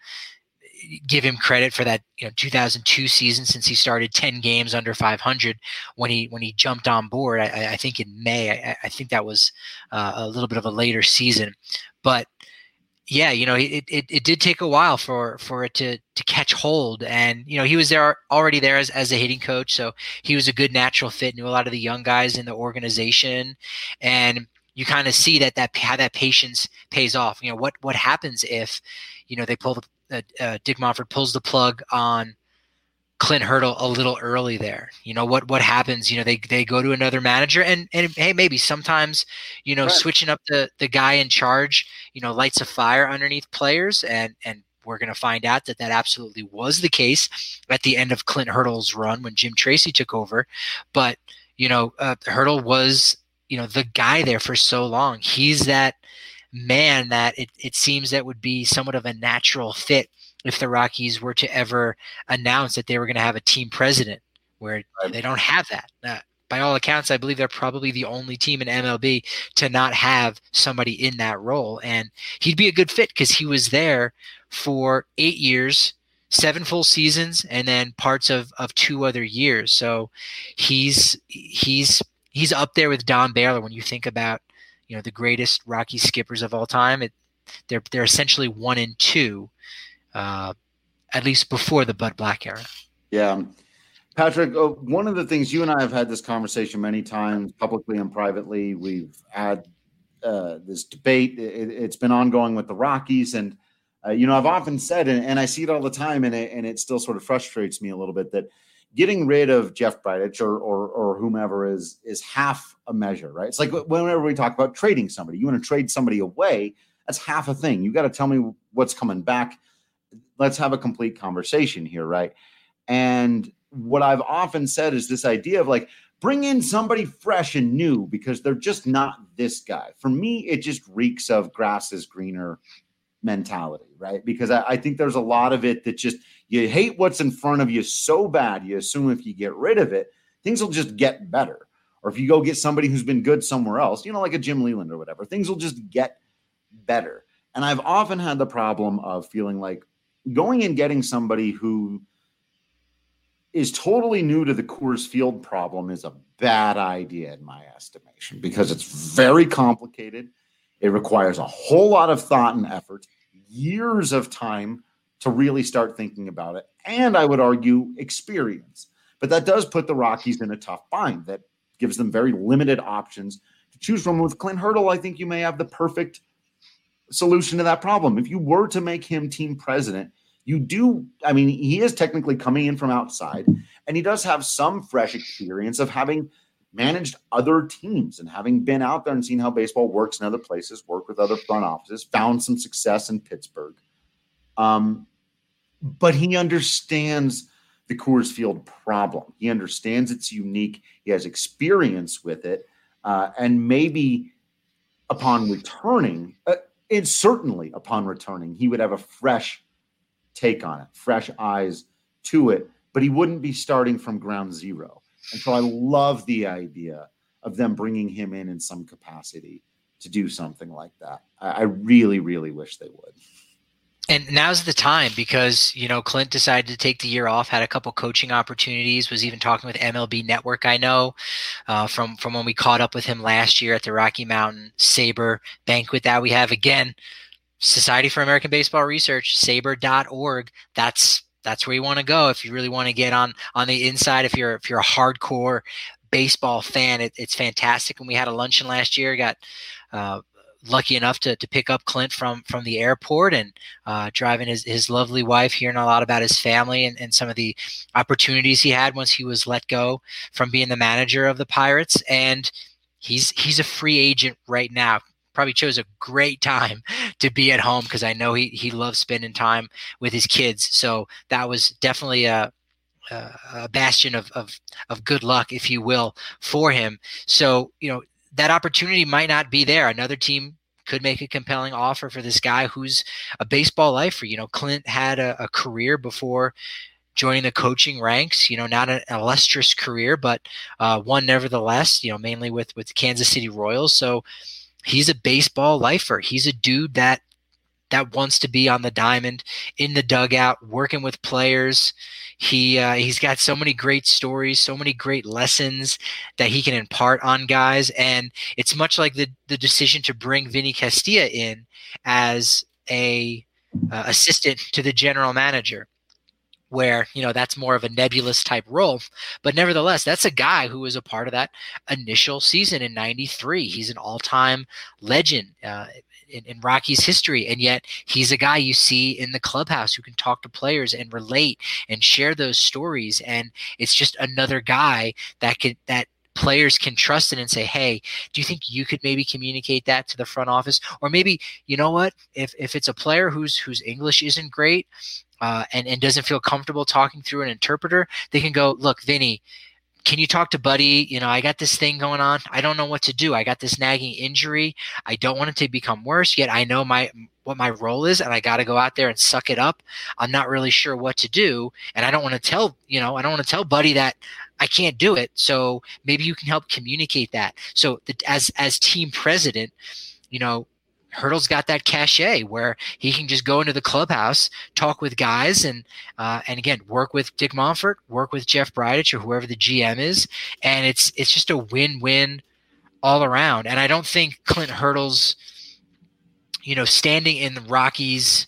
give him credit for that, you know, two thousand two season, since he started ten games under five hundred when he when he jumped on board. I, I think in May. I, I think that was uh, a little bit of a later season, but yeah, you know, it, it it did take a while for for it to to catch hold, and you know he was there already there as as a hitting coach, so he was a good natural fit. Knew a lot of the young guys in the organization, and you kind of see that that how that patience pays off. You know, what what happens if you know they pull the Uh, uh, Dick Monfort pulls the plug on Clint Hurdle a little early there. You know what what happens? You know they they go to another manager, and and hey, maybe sometimes you know right. switching up the the guy in charge, you know, lights a fire underneath players, and and we're going to find out that that absolutely was the case at the end of Clint Hurdle's run when Jim Tracy took over. But you know uh, Hurdle was you know the guy there for so long. He's that man that it, it seems that would be somewhat of a natural fit if the Rockies were to ever announce that they were going to have a team president, where right. they don't have that. Uh, by all accounts, I believe they're probably the only team in M L B to not have somebody in that role. And he'd be a good fit because he was there for eight years, seven full seasons, and then parts of, of two other years. So he's he's he's up there with Don Baylor when you think about you know, the greatest Rocky skippers of all time. It, they're they're essentially one and two, uh, at least before the Bud Black era. Yeah, Patrick. Uh, one of the things you and I have had this conversation many times, publicly and privately. We've had uh, this debate. It, it's been ongoing with the Rockies, and uh, you know, I've often said, and, and I see it all the time, and it, and it still sort of frustrates me a little bit that getting rid of Jeff Bridich or, or or whomever is is half a measure, right? It's like whenever we talk about trading somebody, you want to trade somebody away, that's half a thing. You got to tell me what's coming back. Let's have a complete conversation here, right? And what I've often said is this idea of like, bring in somebody fresh and new because they're just not this guy. For me, it just reeks of grass is greener mentality, right? Because I, I think there's a lot of it that just, you hate what's in front of you so bad, you assume if you get rid of it, things will just get better. Or if you go get somebody who's been good somewhere else, you know, like a Jim Leland or whatever, things will just get better. And I've often had the problem of feeling like going and getting somebody who is totally new to the Coors Field problem is a bad idea in my estimation, because it's very complicated. It requires a whole lot of thought and effort, years of time to really start thinking about it. And I would argue experience. But that does put the Rockies in a tough bind. That gives them very limited options to choose from. With Clint Hurdle, I think you may have the perfect solution to that problem. If you were to make him team president, you do, I mean, he is technically coming in from outside, and he does have some fresh experience of having managed other teams and having been out there and seen how baseball works in other places, worked with other front offices, found some success in Pittsburgh. Um, but he understands the Coors Field problem. He understands it's unique. He has experience with it. Uh, and maybe upon returning, uh, and certainly upon returning, he would have a fresh take on it, fresh eyes to it, but he wouldn't be starting from ground zero. And so I love the idea of them bringing him in in some capacity to do something like that. I, I really, really wish they would. And now's the time, because, you know, Clint decided to take the year off, had a couple coaching opportunities, was even talking with M L B Network, I know, uh, from, from when we caught up with him last year at the Rocky Mountain Sabre banquet that we have. Again, Society for American Baseball Research, sabre dot org. That's that's where you want to go if you really want to get on on the inside. If you're if you're a hardcore baseball fan, it, it's fantastic. And we had a luncheon last year, got uh, lucky enough to to pick up Clint from from the airport and uh, driving his, his lovely wife, hearing a lot about his family and, and some of the opportunities he had once he was let go from being the manager of the Pirates. And he's he's a free agent right now. Probably chose a great time to be at home, because I know he he loves spending time with his kids. So that was definitely a uh, a bastion of, of of good luck, if you will, for him. So, you know, that opportunity might not be there. Another team could make a compelling offer for this guy who's a baseball lifer. You know, Clint had a, a career before joining the coaching ranks, you know, not an illustrious career, but uh, one nevertheless, you know, mainly with, with the Kansas City Royals. So he's a baseball lifer. He's a dude that that wants to be on the diamond, in the dugout, working with players. He uh, he's got so many great stories, so many great lessons that he can impart on guys. And it's much like the the decision to bring Vinny Castilla in as a uh, assistant to the general manager, where, you know, that's more of a nebulous type role. But nevertheless, that's a guy who was a part of that initial season in ninety-three. He's an all-time legend uh, in, in Rockies history. And yet he's a guy you see in the clubhouse who can talk to players and relate and share those stories. And it's just another guy that could, that players can trust in and say, hey, do you think you could maybe communicate that to the front office? Or maybe, you know what, if, if it's a player whose, whose English isn't great, Uh, and, and doesn't feel comfortable talking through an interpreter, they can go, look, Vinny, can you talk to Buddy? You know, I got this thing going on. I don't know what to do. I got this nagging injury. I don't want it to become worse, yet I know my what my role is, and I got to go out there and suck it up. I'm not really sure what to do, and I don't want to tell, you know, I don't want to tell Buddy that I can't do it. So maybe you can help communicate that. So the, as as team president, you know, Hurdle's got that cachet where he can just go into the clubhouse, talk with guys, and uh, and again work with Dick Monfort, work with Jeff Bridich or whoever the G M is, and it's it's just a win-win all around. And I don't think Clint Hurdle's, you know, standing in the Rockies'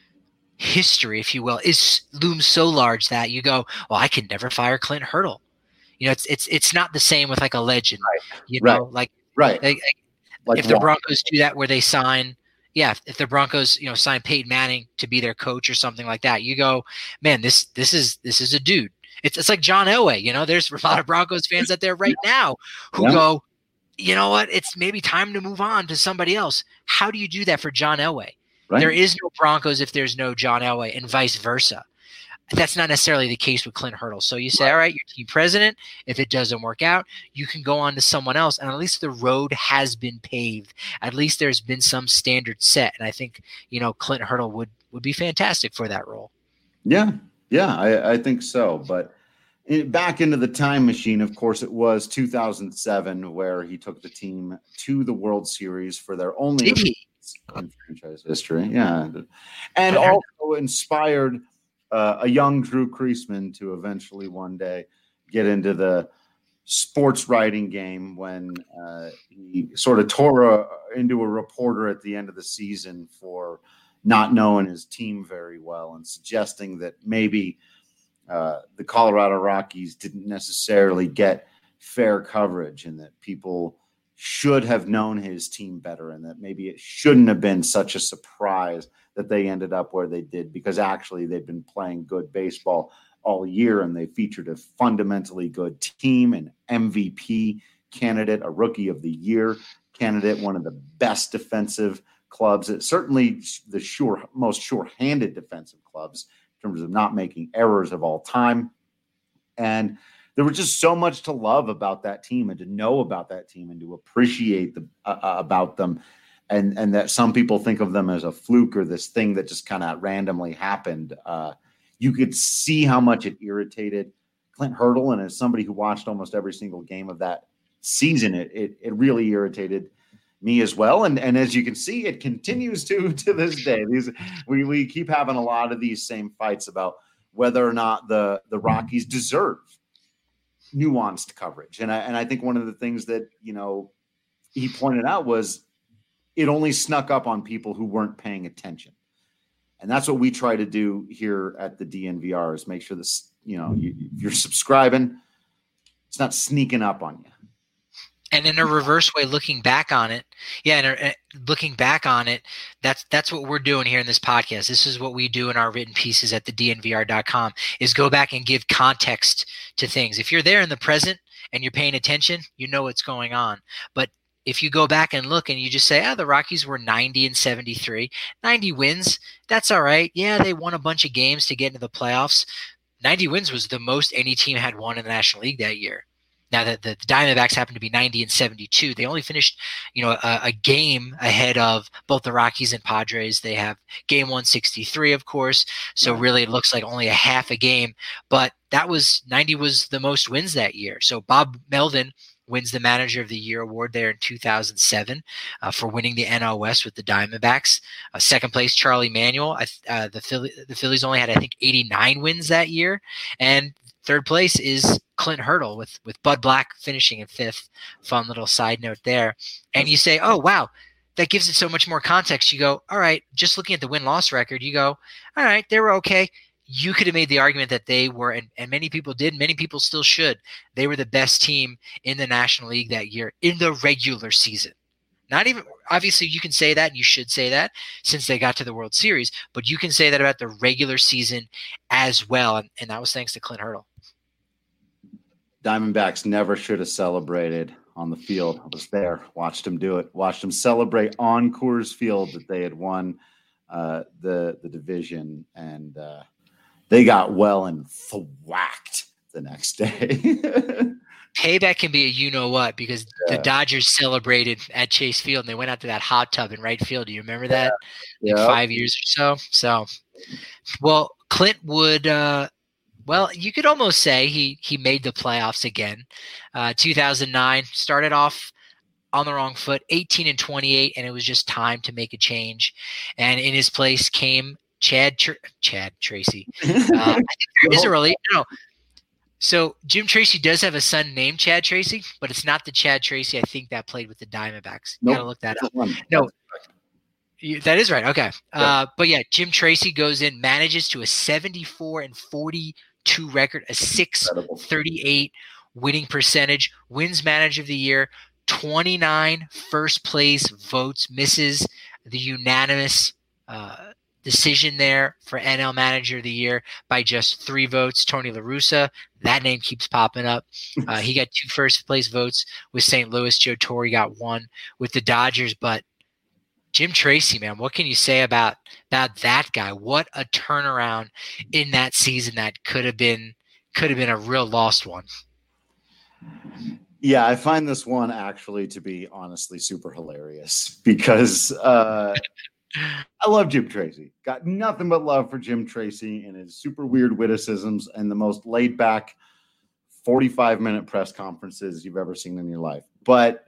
history, if you will, is looms so large that you go, well, I can never fire Clint Hurdle. You know, it's it's it's not the same with like a legend, right. you know, right. like right. Like, Like if the Broncos do that where they sign, yeah, if the Broncos, you know, sign Peyton Manning to be their coach or something like that, you go, man, this this is this is a dude. It's it's like John Elway, you know, there's a lot of Broncos fans out there right now who yeah. go, you know what, it's maybe time to move on to somebody else. How do you do that for John Elway? Right. There is no Broncos if there's no John Elway, and vice versa. That's not necessarily the case with Clint Hurdle. So you say, right. all right, you're team president. If it doesn't work out, you can go on to someone else. And at least the road has been paved. At least there's been some standard set. And I think, you know, Clint Hurdle would, would be fantastic for that role. Yeah. Yeah, I, I think so. But in, back into the time machine, of course, it was two thousand seven where he took the team to the World Series for their only in franchise history. Yeah. And also inspired Uh, a young Drew Creasman to eventually one day get into the sports writing game when uh, he sort of tore a, into a reporter at the end of the season for not knowing his team very well and suggesting that maybe uh, the Colorado Rockies didn't necessarily get fair coverage and that people should have known his team better and that maybe it shouldn't have been such a surprise that they ended up where they did, because actually they've been playing good baseball all year and they featured a fundamentally good team, an M V P candidate, a rookie of the year candidate, one of the best defensive clubs, certainly the sure most sure-handed defensive clubs in terms of not making errors of all time. And there was just so much to love about that team and to know about that team and to appreciate the, uh, about them. And, and that some people think of them as a fluke or this thing that just kind of randomly happened. Uh, you could see how much it irritated Clint Hurdle. And as somebody who watched almost every single game of that season, it it, it really irritated me as well. And, and as you can see, it continues to to this day. These we, we keep having a lot of these same fights about whether or not the, the Rockies deserve nuanced coverage. And I, and I think one of the things that, you know, he pointed out was, it only snuck up on people who weren't paying attention. And that's what we try to do here at the D N V R is make sure this, you know, you, you're subscribing, it's not sneaking up on you. And in a reverse way, looking back on it, yeah, and uh, looking back on it, that's that's what we're doing here in this podcast. This is what we do in our written pieces at the D N V R dot com is go back and give context to things. If you're there in the present and you're paying attention, you know what's going on. But if you go back and look and you just say, oh, the Rockies were ninety and seventy-three, ninety wins, that's all right. Yeah, they won a bunch of games to get into the playoffs. ninety wins was the most any team had won in the National League that year. Now that the, the Diamondbacks happened to be ninety and seventy-two, they only finished, you know, a, a game ahead of both the Rockies and Padres. They have game one sixty-three, of course. So really, it looks like only a half a game. But that was ninety was the most wins that year. So Bob Melvin wins the Manager of the Year award there in two thousand seven uh, for winning the N L West with the Diamondbacks. Uh, second place, Charlie Manuel. Uh, the Philly, the Phillies only had, I think, eighty-nine wins that year, and third place is Clint Hurdle with, with Bud Black finishing in fifth. Fun little side note there. And you say, oh, wow, that gives it so much more context. You go, all right, just looking at the win-loss record, you go, all right, they were okay. You could have made the argument that they were, and, and many people did, many people still should, they were the best team in the National League that year in the regular season. Not even, obviously you can say that, and you should say that since they got to the World Series, but you can say that about the regular season as well, and, and that was thanks to Clint Hurdle. Diamondbacks never should have celebrated on the field. I was there, watched them do it, watched them celebrate on Coors Field that they had won uh, the the division, and uh, they got well and thwacked the next day. Payback can be a you-know-what because yeah. the Dodgers celebrated at Chase Field, and they went out to that hot tub in right field. Do you remember that? Yeah. Like yep. Five years or so? So, well, Clint would uh, – well, you could almost say he he made the playoffs again. Uh, two thousand nine started off on the wrong foot, eighteen and twenty-eight, and it was just time to make a change. And in his place came Chad Tr- Chad Tracy. Uh, I think there is a really no. So Jim Tracy does have a son named Chad Tracy, but it's not the Chad Tracy I think that played with the Diamondbacks. You nope. Gotta look that up. No. You, that is right. Okay. Uh, but yeah, Jim Tracy goes in, manages to a seventy-four and forty-two record, a six thirty-eight winning percentage, wins Manager of the Year, twenty-nine first place votes, misses the unanimous uh, decision there for N L Manager of the Year by just three votes. Tony La Russa, that name keeps popping up. Uh, he got two first place votes with Saint Louis. Joe Torre got one with the Dodgers, but Jim Tracy, man, what can you say about, about that guy? What a turnaround in that season that could have been could have been a real lost one. Yeah, I find this one actually to be honestly super hilarious because uh, I love Jim Tracy. Got nothing but love for Jim Tracy and his super weird witticisms and the most laid back forty-five minute press conferences you've ever seen in your life. But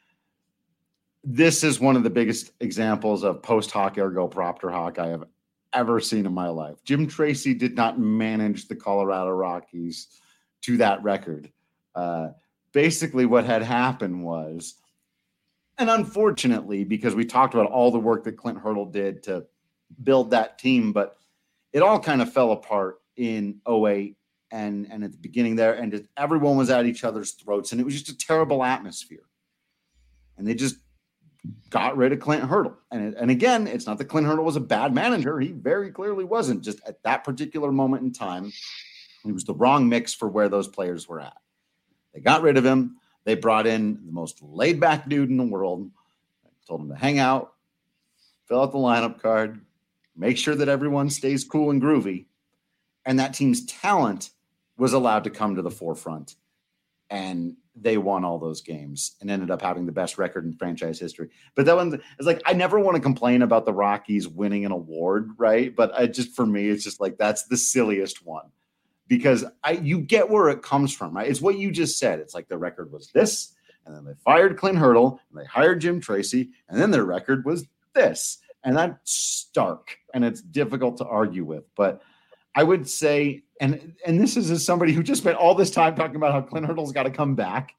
this is one of the biggest examples of post hoc ergo propter hoc I have ever seen in my life. Jim Tracy did not manage the Colorado Rockies to that record. Uh, basically what had happened was, and unfortunately, because we talked about all the work that Clint Hurdle did to build that team, but it all kind of fell apart in oh eight and, and at the beginning there, and it, everyone was at each other's throats, and it was just a terrible atmosphere. And they just got rid of Clint Hurdle. And, and again, it's not that Clint Hurdle was a bad manager. He very clearly wasn't. Just at that particular moment in time, he was the wrong mix for where those players were at. They got rid of him. They brought in the most laid-back dude in the world, told him to hang out, fill out the lineup card, make sure that everyone stays cool and groovy. And that team's talent was allowed to come to the forefront. And they won all those games and ended up having the best record in franchise history. But that one is like, I never want to complain about the Rockies winning an award, right? But I just, for me, it's just like, that's the silliest one because I, you get where it comes from, right? It's what you just said. It's like the record was this, and then they fired Clint Hurdle and they hired Jim Tracy, and then their record was this. And that's stark and it's difficult to argue with, but I would say, and and this is as somebody who just spent all this time talking about how Clint Hurdle's got to come back.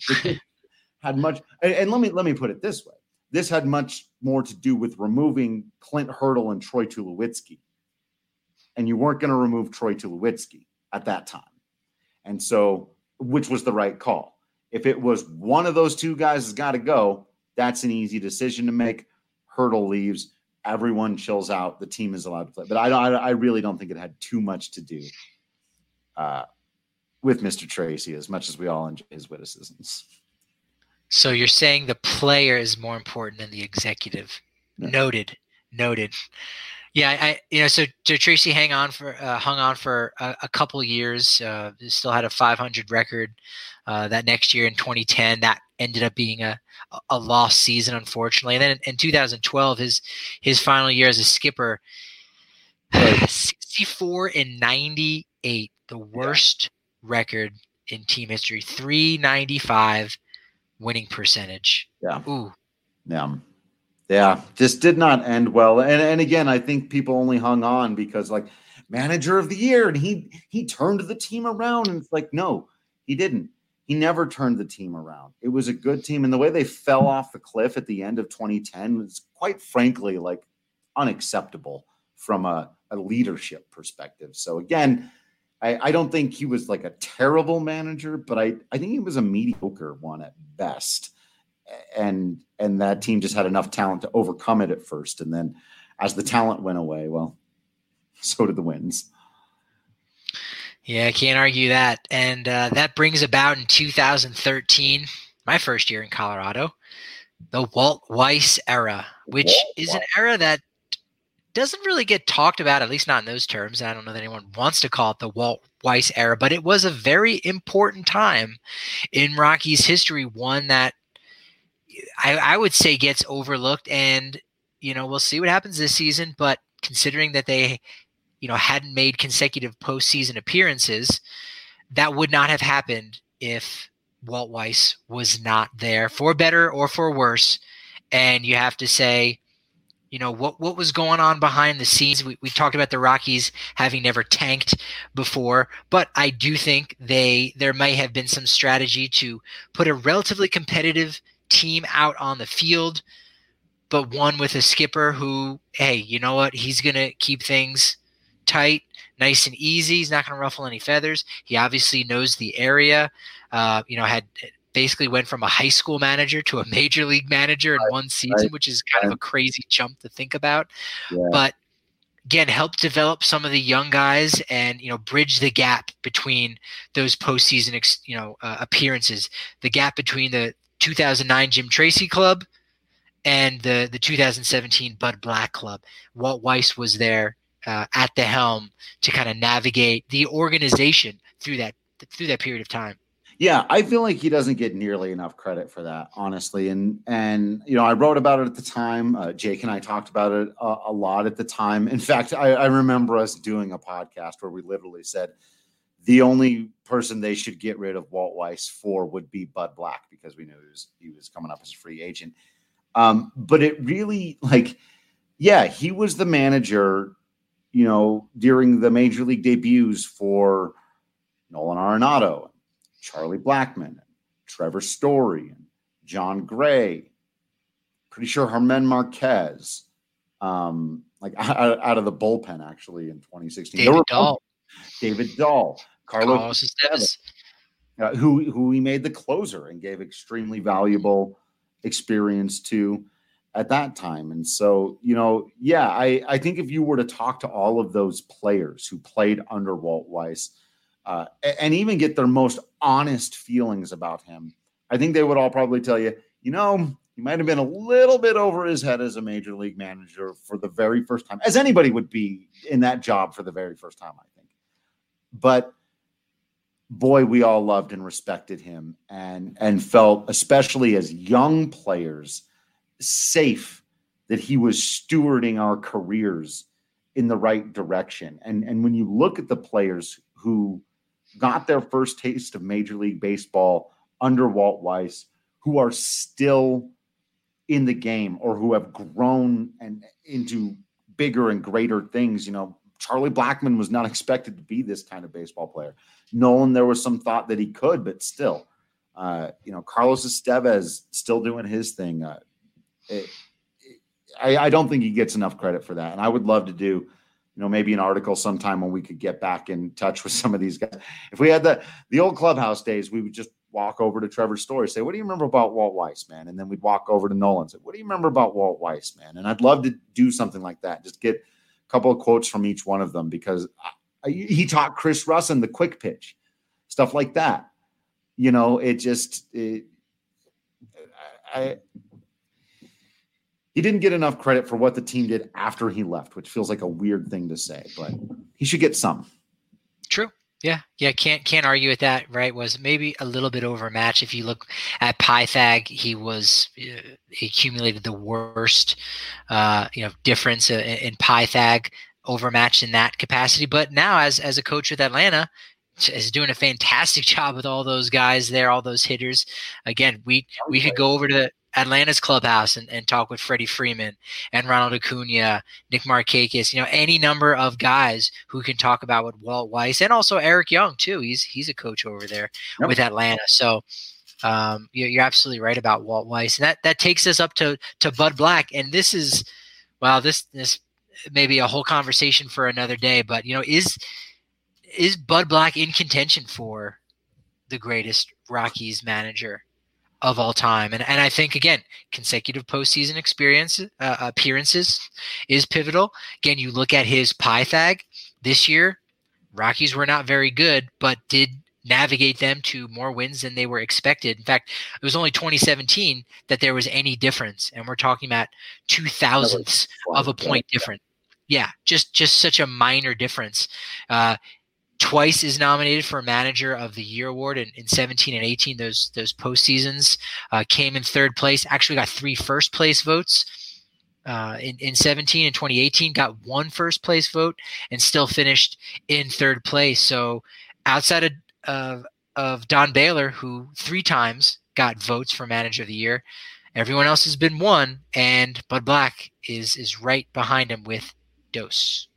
Had much, and, and let me let me put it this way: this had much more to do with removing Clint Hurdle and Troy Tulowitzki, and you weren't going to remove Troy Tulowitzki at that time, and so which was the right call. If it was one of those two guys has got to go, that's an easy decision to make. Hurdle leaves. Everyone chills out. The team is allowed to play. But I, I, I really don't think it had too much to do uh, with Mister Tracy, as much as we all enjoy his witticisms. So you're saying the player is more important than the executive. Yeah. Noted. Noted. Yeah, I you know so, so Tracy hang on for uh, hung on for a, a couple years. Uh, still had a five hundred record. Uh, that next year in twenty ten, that ended up being a a lost season, unfortunately. And then in, in two thousand twelve, his his final year as a skipper, sixty-four and ninety-eight, the worst yeah. record in team history. three ninety-five winning percentage. Yeah. Ooh. Yeah. Yeah, just did not end well. And and again, I think people only hung on because like manager of the year and he he turned the team around, and it's like, no, he didn't. He never turned the team around. It was a good team, and the way they fell off the cliff at the end of twenty ten was quite frankly like unacceptable from a, a leadership perspective. So again, I, I don't think he was like a terrible manager, but I, I think he was a mediocre one at best. And and that team just had enough talent to overcome it at first. And then as the talent went away, well, so did the wins. Yeah, I can't argue that. And uh, that brings about in two thousand thirteen, my first year in Colorado, the Walt Weiss era, which Walt is an era that doesn't really get talked about, at least not in those terms. I don't know that anyone wants to call it the Walt Weiss era, but it was a very important time in Rockies history, one that I, I would say gets overlooked, and, you know, we'll see what happens this season, but considering that they, you know, hadn't made consecutive postseason appearances, that would not have happened if Walt Weiss was not there, for better or for worse. And you have to say, you know, what, what was going on behind the scenes. We, we talked about the Rockies having never tanked before, but I do think they, there may have been some strategy to put a relatively competitive team out on the field, but one with a skipper who, hey, you know what? He's going to keep things tight, nice and easy. He's not going to ruffle any feathers. He obviously knows the area. Uh, you know, had basically went from a high school manager to a major league manager in right, one season, right, which is kind right. of a crazy jump to think about. Yeah. But again, helped develop some of the young guys and, you know, bridge the gap between those postseason, ex, you know, uh, appearances, the gap between the two thousand nine Jim Tracy club and the, the two thousand seventeen Bud Black club. Walt Weiss was there uh, at the helm to kind of navigate the organization through that, through that period of time. Yeah, I feel like he doesn't get nearly enough credit for that, honestly. And, and you know, I wrote about it at the time. Uh, Jake and I talked about it a, a lot at the time. In fact, I, I remember us doing a podcast where we literally said the only person they should get rid of Walt Weiss for would be Bud Black, because we knew he was, he was coming up as a free agent. Um, but it really, like, yeah, he was the manager, you know, during the major league debuts for Nolan Arenado, Charlie Blackmon, Trevor Story, and John Gray. Pretty sure Germán Marquez, um, like out, out of the bullpen, actually, in twenty sixteen. David Dahl. David Dahl. Carlos, Carlos Estevez. Uh, who, who he made the closer and gave extremely valuable experience to at that time. And so, you know, yeah, I, I think if you were to talk to all of those players who played under Walt Weiss, Uh, and even get their most honest feelings about him, I think they would all probably tell you, you know, he might have been a little bit over his head as a major league manager for the very first time, as anybody would be in that job for the very first time, I think. But boy, we all loved and respected him, and, and felt, especially as young players, safe that he was stewarding our careers in the right direction. And, and when you look at the players who got their first taste of Major League Baseball under Walt Weiss, who are still in the game or who have grown and into bigger and greater things. You know, Charlie Blackmon was not expected to be this kind of baseball player. Nolan, there was some thought that he could, but still, uh, you know, Carlos Estevez still doing his thing. Uh, it, it, I, I don't think he gets enough credit for that. And I would love to do, you know, maybe an article sometime when we could get back in touch with some of these guys. If we had the, the old clubhouse days, we would just walk over to Trevor Story, say, what do you remember about Walt Weiss, man? And then we'd walk over to Nolan and say, what do you remember about Walt Weiss, man? And I'd love to do something like that. Just get a couple of quotes from each one of them, because I, he taught Chris Russin the quick pitch, stuff like that. You know, it just, it, I, he didn't get enough credit for what the team did after he left, which feels like a weird thing to say, but he should get some. True. Yeah. Yeah. Can't, can't argue with that. Right. Was maybe a little bit overmatched. If you look at Pythag, he was uh, he accumulated the worst, uh, you know, difference in, in Pythag, overmatched in that capacity. But now as, as a coach with Atlanta, is doing a fantastic job with all those guys there, all those hitters. Again, we, we could go over to Atlanta's clubhouse and, and talk with Freddie Freeman and Ronald Acuna, Nick Markakis, you know, any number of guys who can talk about with Walt Weiss and also Eric Young too. He's, he's a coach over there yep. with Atlanta. So um, you're, you're absolutely right about Walt Weiss. And that, that takes us up to, to Bud Black. And this is, well, this, this may be a whole conversation for another day, but you know, is, is Bud Black in contention for the greatest Rockies manager of all time? And and I think, again, consecutive postseason experience uh, appearances is pivotal. Again, you look at his Pythag this year, Rockies were not very good, but did navigate them to more wins than they were expected. In fact, it was only twenty seventeen that there was any difference. And we're talking about two thousandths of a point difference. Yeah, just, just such a minor difference. Uh, Twice is nominated for Manager of the Year award in, in seventeen and eighteen. Those those postseasons uh, came in third place. Actually, got three first place votes uh, in in seventeen and twenty eighteen. Got one first place vote and still finished in third place. So outside of of, of Don Baylor, who three times got votes for Manager of the Year, everyone else has been one, and Bud Black is is right behind him with Dos.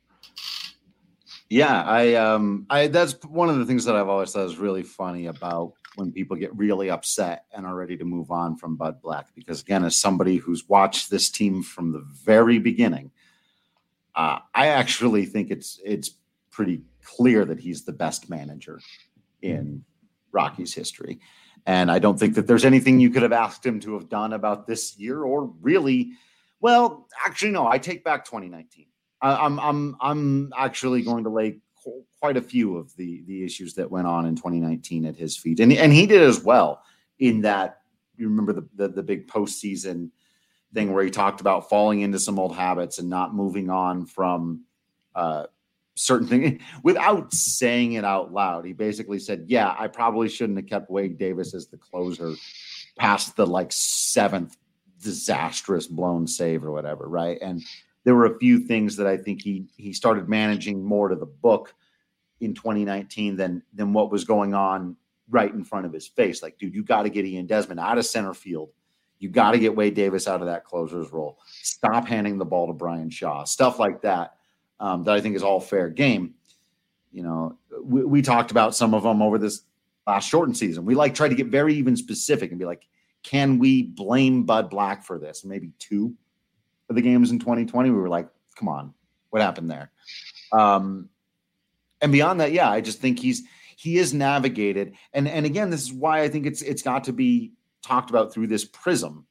Yeah, I um I that's one of the things that I've always thought is really funny about when people get really upset and are ready to move on from Bud Black, because again, as somebody who's watched this team from the very beginning, uh, I actually think it's it's pretty clear that he's the best manager in Rockies history. And I don't think that there's anything you could have asked him to have done about this year, or really, well, actually, no, I take back twenty nineteen. I'm I'm I'm actually going to lay quite a few of the the issues that went on in twenty nineteen at his feet, and and he did as well. In that, you remember the the, the big postseason thing where he talked about falling into some old habits and not moving on from uh, certain things without saying it out loud. He basically said, "Yeah, I probably shouldn't have kept Wade Davis as the closer past the like seventh disastrous blown save or whatever." Right. And there were a few things that I think he he started managing more to the book in twenty nineteen than than what was going on right in front of his face. Like, dude, you got to get Ian Desmond out of center field. You got to get Wade Davis out of that closer's role. Stop handing the ball to Brian Shaw. Stuff like that, um, that I think is all fair game. You know, we, we talked about some of them over this last shortened season. We like tried to get very even specific and be like, can we blame Bud Black for this? Maybe two of the games in twenty twenty, we were like, come on, what happened there? Um, and beyond that, yeah, I just think he's he is navigated. And and again, this is why I think it's it's got to be talked about through this prism,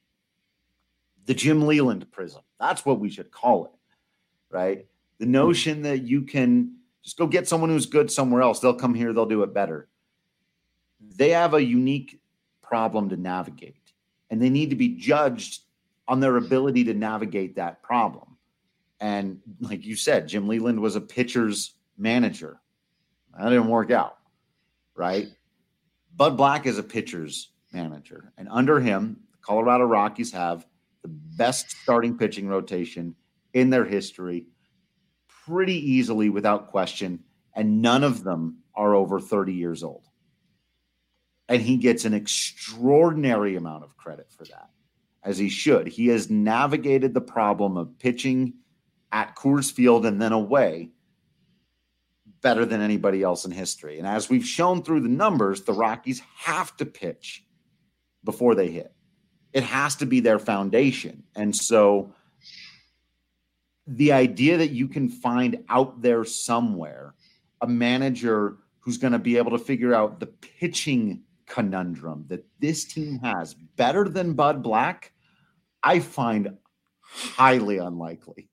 the Jim Leyland prism. That's what we should call it, right? The notion that you can just go get someone who's good somewhere else. They'll come here, they'll do it better. They have a unique problem to navigate, and they need to be judged on their ability to navigate that problem. And like you said, Jim Leyland was a pitcher's manager. That didn't work out, right? Bud Black is a pitcher's manager. And under him, the Colorado Rockies have the best starting pitching rotation in their history, pretty easily, without question. And none of them are over thirty years old. And he gets an extraordinary amount of credit for that, as he should. He has navigated the problem of pitching at Coors Field and then away better than anybody else in history. And as we've shown through the numbers, the Rockies have to pitch before they hit. It has to be their foundation. And so the idea that you can find out there somewhere a manager who's going to be able to figure out the pitching conundrum that this team has better than Bud Black, I find highly unlikely.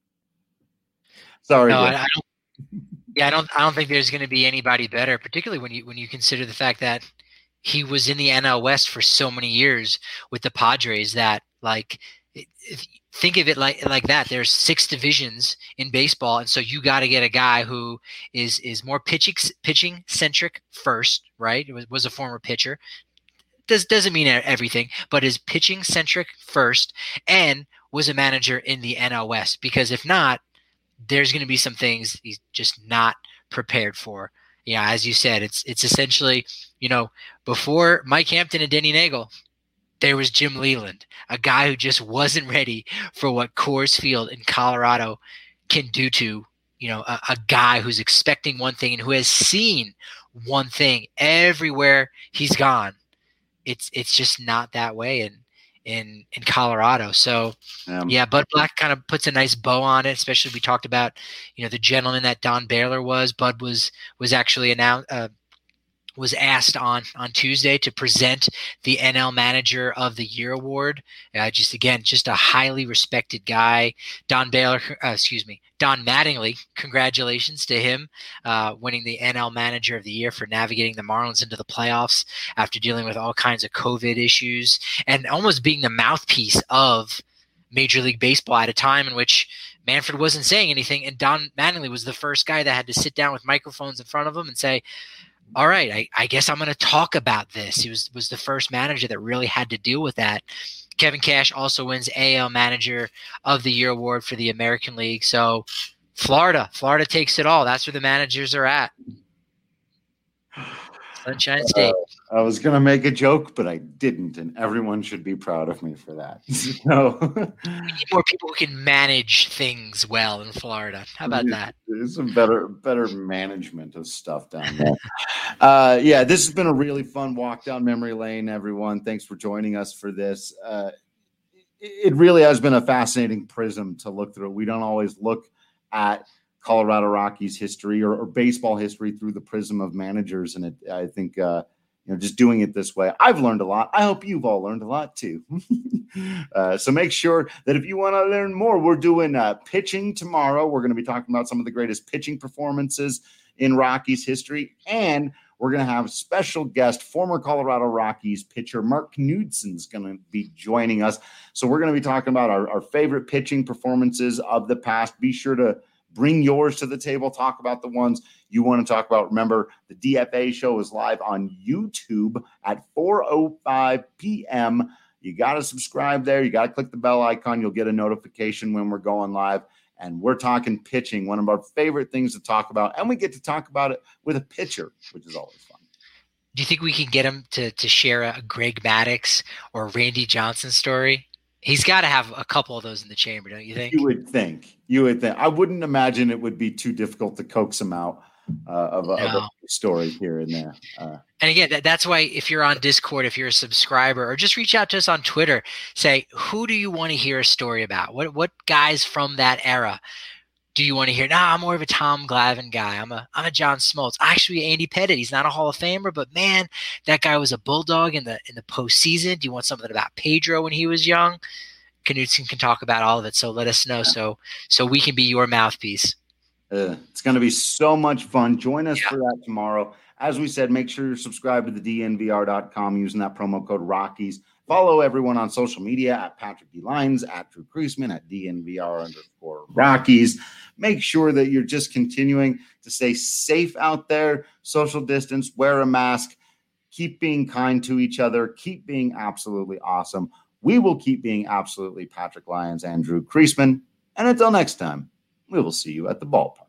Sorry. No, I, I don't, yeah, I don't. I don't think there's going to be anybody better, particularly when you when you consider the fact that he was in the N L West for so many years with the Padres. That like, if, think of it like like that. There's six divisions in baseball, and so you got to get a guy who is is more pitching pitching centric first, right? It was, was a former pitcher. Does doesn't mean everything, but is pitching centric first, and was a manager in the N L West. Because if not, there's going to be some things he's just not prepared for. Yeah, as you said, it's it's essentially, you know, before Mike Hampton and Denny Nagel, there was Jim Leland, a guy who just wasn't ready for what Coors Field in Colorado can do to, you know, a, a guy who's expecting one thing and who has seen one thing everywhere he's gone. It's it's just not that way in in in Colorado. So um, yeah, Bud Black kind of puts a nice bow on it. Especially we talked about, you know, the gentleman that Don Baylor was. Bud was was actually announced. Uh, was asked on, on Tuesday to present the N L Manager of the Year award. Uh, just again, just a highly respected guy. Don Baylor, uh, excuse me, Don Mattingly, congratulations to him uh, winning the N L Manager of the Year for navigating the Marlins into the playoffs after dealing with all kinds of COVID issues and almost being the mouthpiece of Major League Baseball at a time in which Manfred wasn't saying anything, and Don Mattingly was the first guy that had to sit down with microphones in front of him and say, all right, I, I guess I'm going to talk about this. He was was the first manager that really had to deal with that. Kevin Cash also wins A L Manager of the Year award for the American League. So Florida, Florida takes it all. That's where the managers are at. Sunshine State. Uh, I was going to make a joke, but I didn't, and everyone should be proud of me for that. So we need more people who can manage things well in Florida. How about that? There's some better, better management of stuff down there. uh, yeah, this has been a really fun walk down memory lane, everyone. Thanks for joining us for this. Uh, it really has been a fascinating prism to look through. We don't always look at Colorado Rockies history or, or baseball history through the prism of managers. And it, I think, uh, you know, just doing it this way, I've learned a lot. I hope you've all learned a lot too. uh, so make sure that if you want to learn more, we're doing uh, pitching tomorrow. We're going to be talking about some of the greatest pitching performances in Rockies history. And we're going to have special guest, former Colorado Rockies pitcher Mark Knudsen's going to be joining us. So we're going to be talking about our, our favorite pitching performances of the past. Be sure to bring yours to the table. Talk about the ones you want to talk about. Remember, the D F A show is live on YouTube at four oh five p.m. You got to subscribe there. You got to click the bell icon. You'll get a notification when we're going live. And we're talking pitching, one of our favorite things to talk about. And we get to talk about it with a pitcher, which is always fun. Do you think we can get him to, to share a Greg Maddux or Randy Johnson story? He's got to have a couple of those in the chamber, don't you think? You would think. You would think. I wouldn't imagine it would be too difficult to coax him out uh, of, a, no. of a story here and there. Uh, and again, that, that's why if you're on Discord, if you're a subscriber, or just reach out to us on Twitter, say, who do you want to hear a story about? What what guys from that era do you want to hear? Nah, I'm more of a Tom Glavine guy. I'm a I'm a John Smoltz. Actually, Andy Pettitte. He's not a Hall of Famer, but man, that guy was a bulldog in the in the postseason. Do you want something about Pedro when he was young? Knudsen can talk about all of it, so let us know so so we can be your mouthpiece. Uh, it's going to be so much fun. Join us yeah. for that tomorrow. As we said, make sure you're subscribed to the D N V R dot com using that promo code Rockies. Follow everyone on social media at Patrick D. Lyons, at Drew Creasman, at D N V R underscore Rockies. Make sure that you're just continuing to stay safe out there, social distance, wear a mask, keep being kind to each other, keep being absolutely awesome. We will keep being absolutely Patrick Lyons and Drew Creasman. And until next time, we will see you at the ballpark.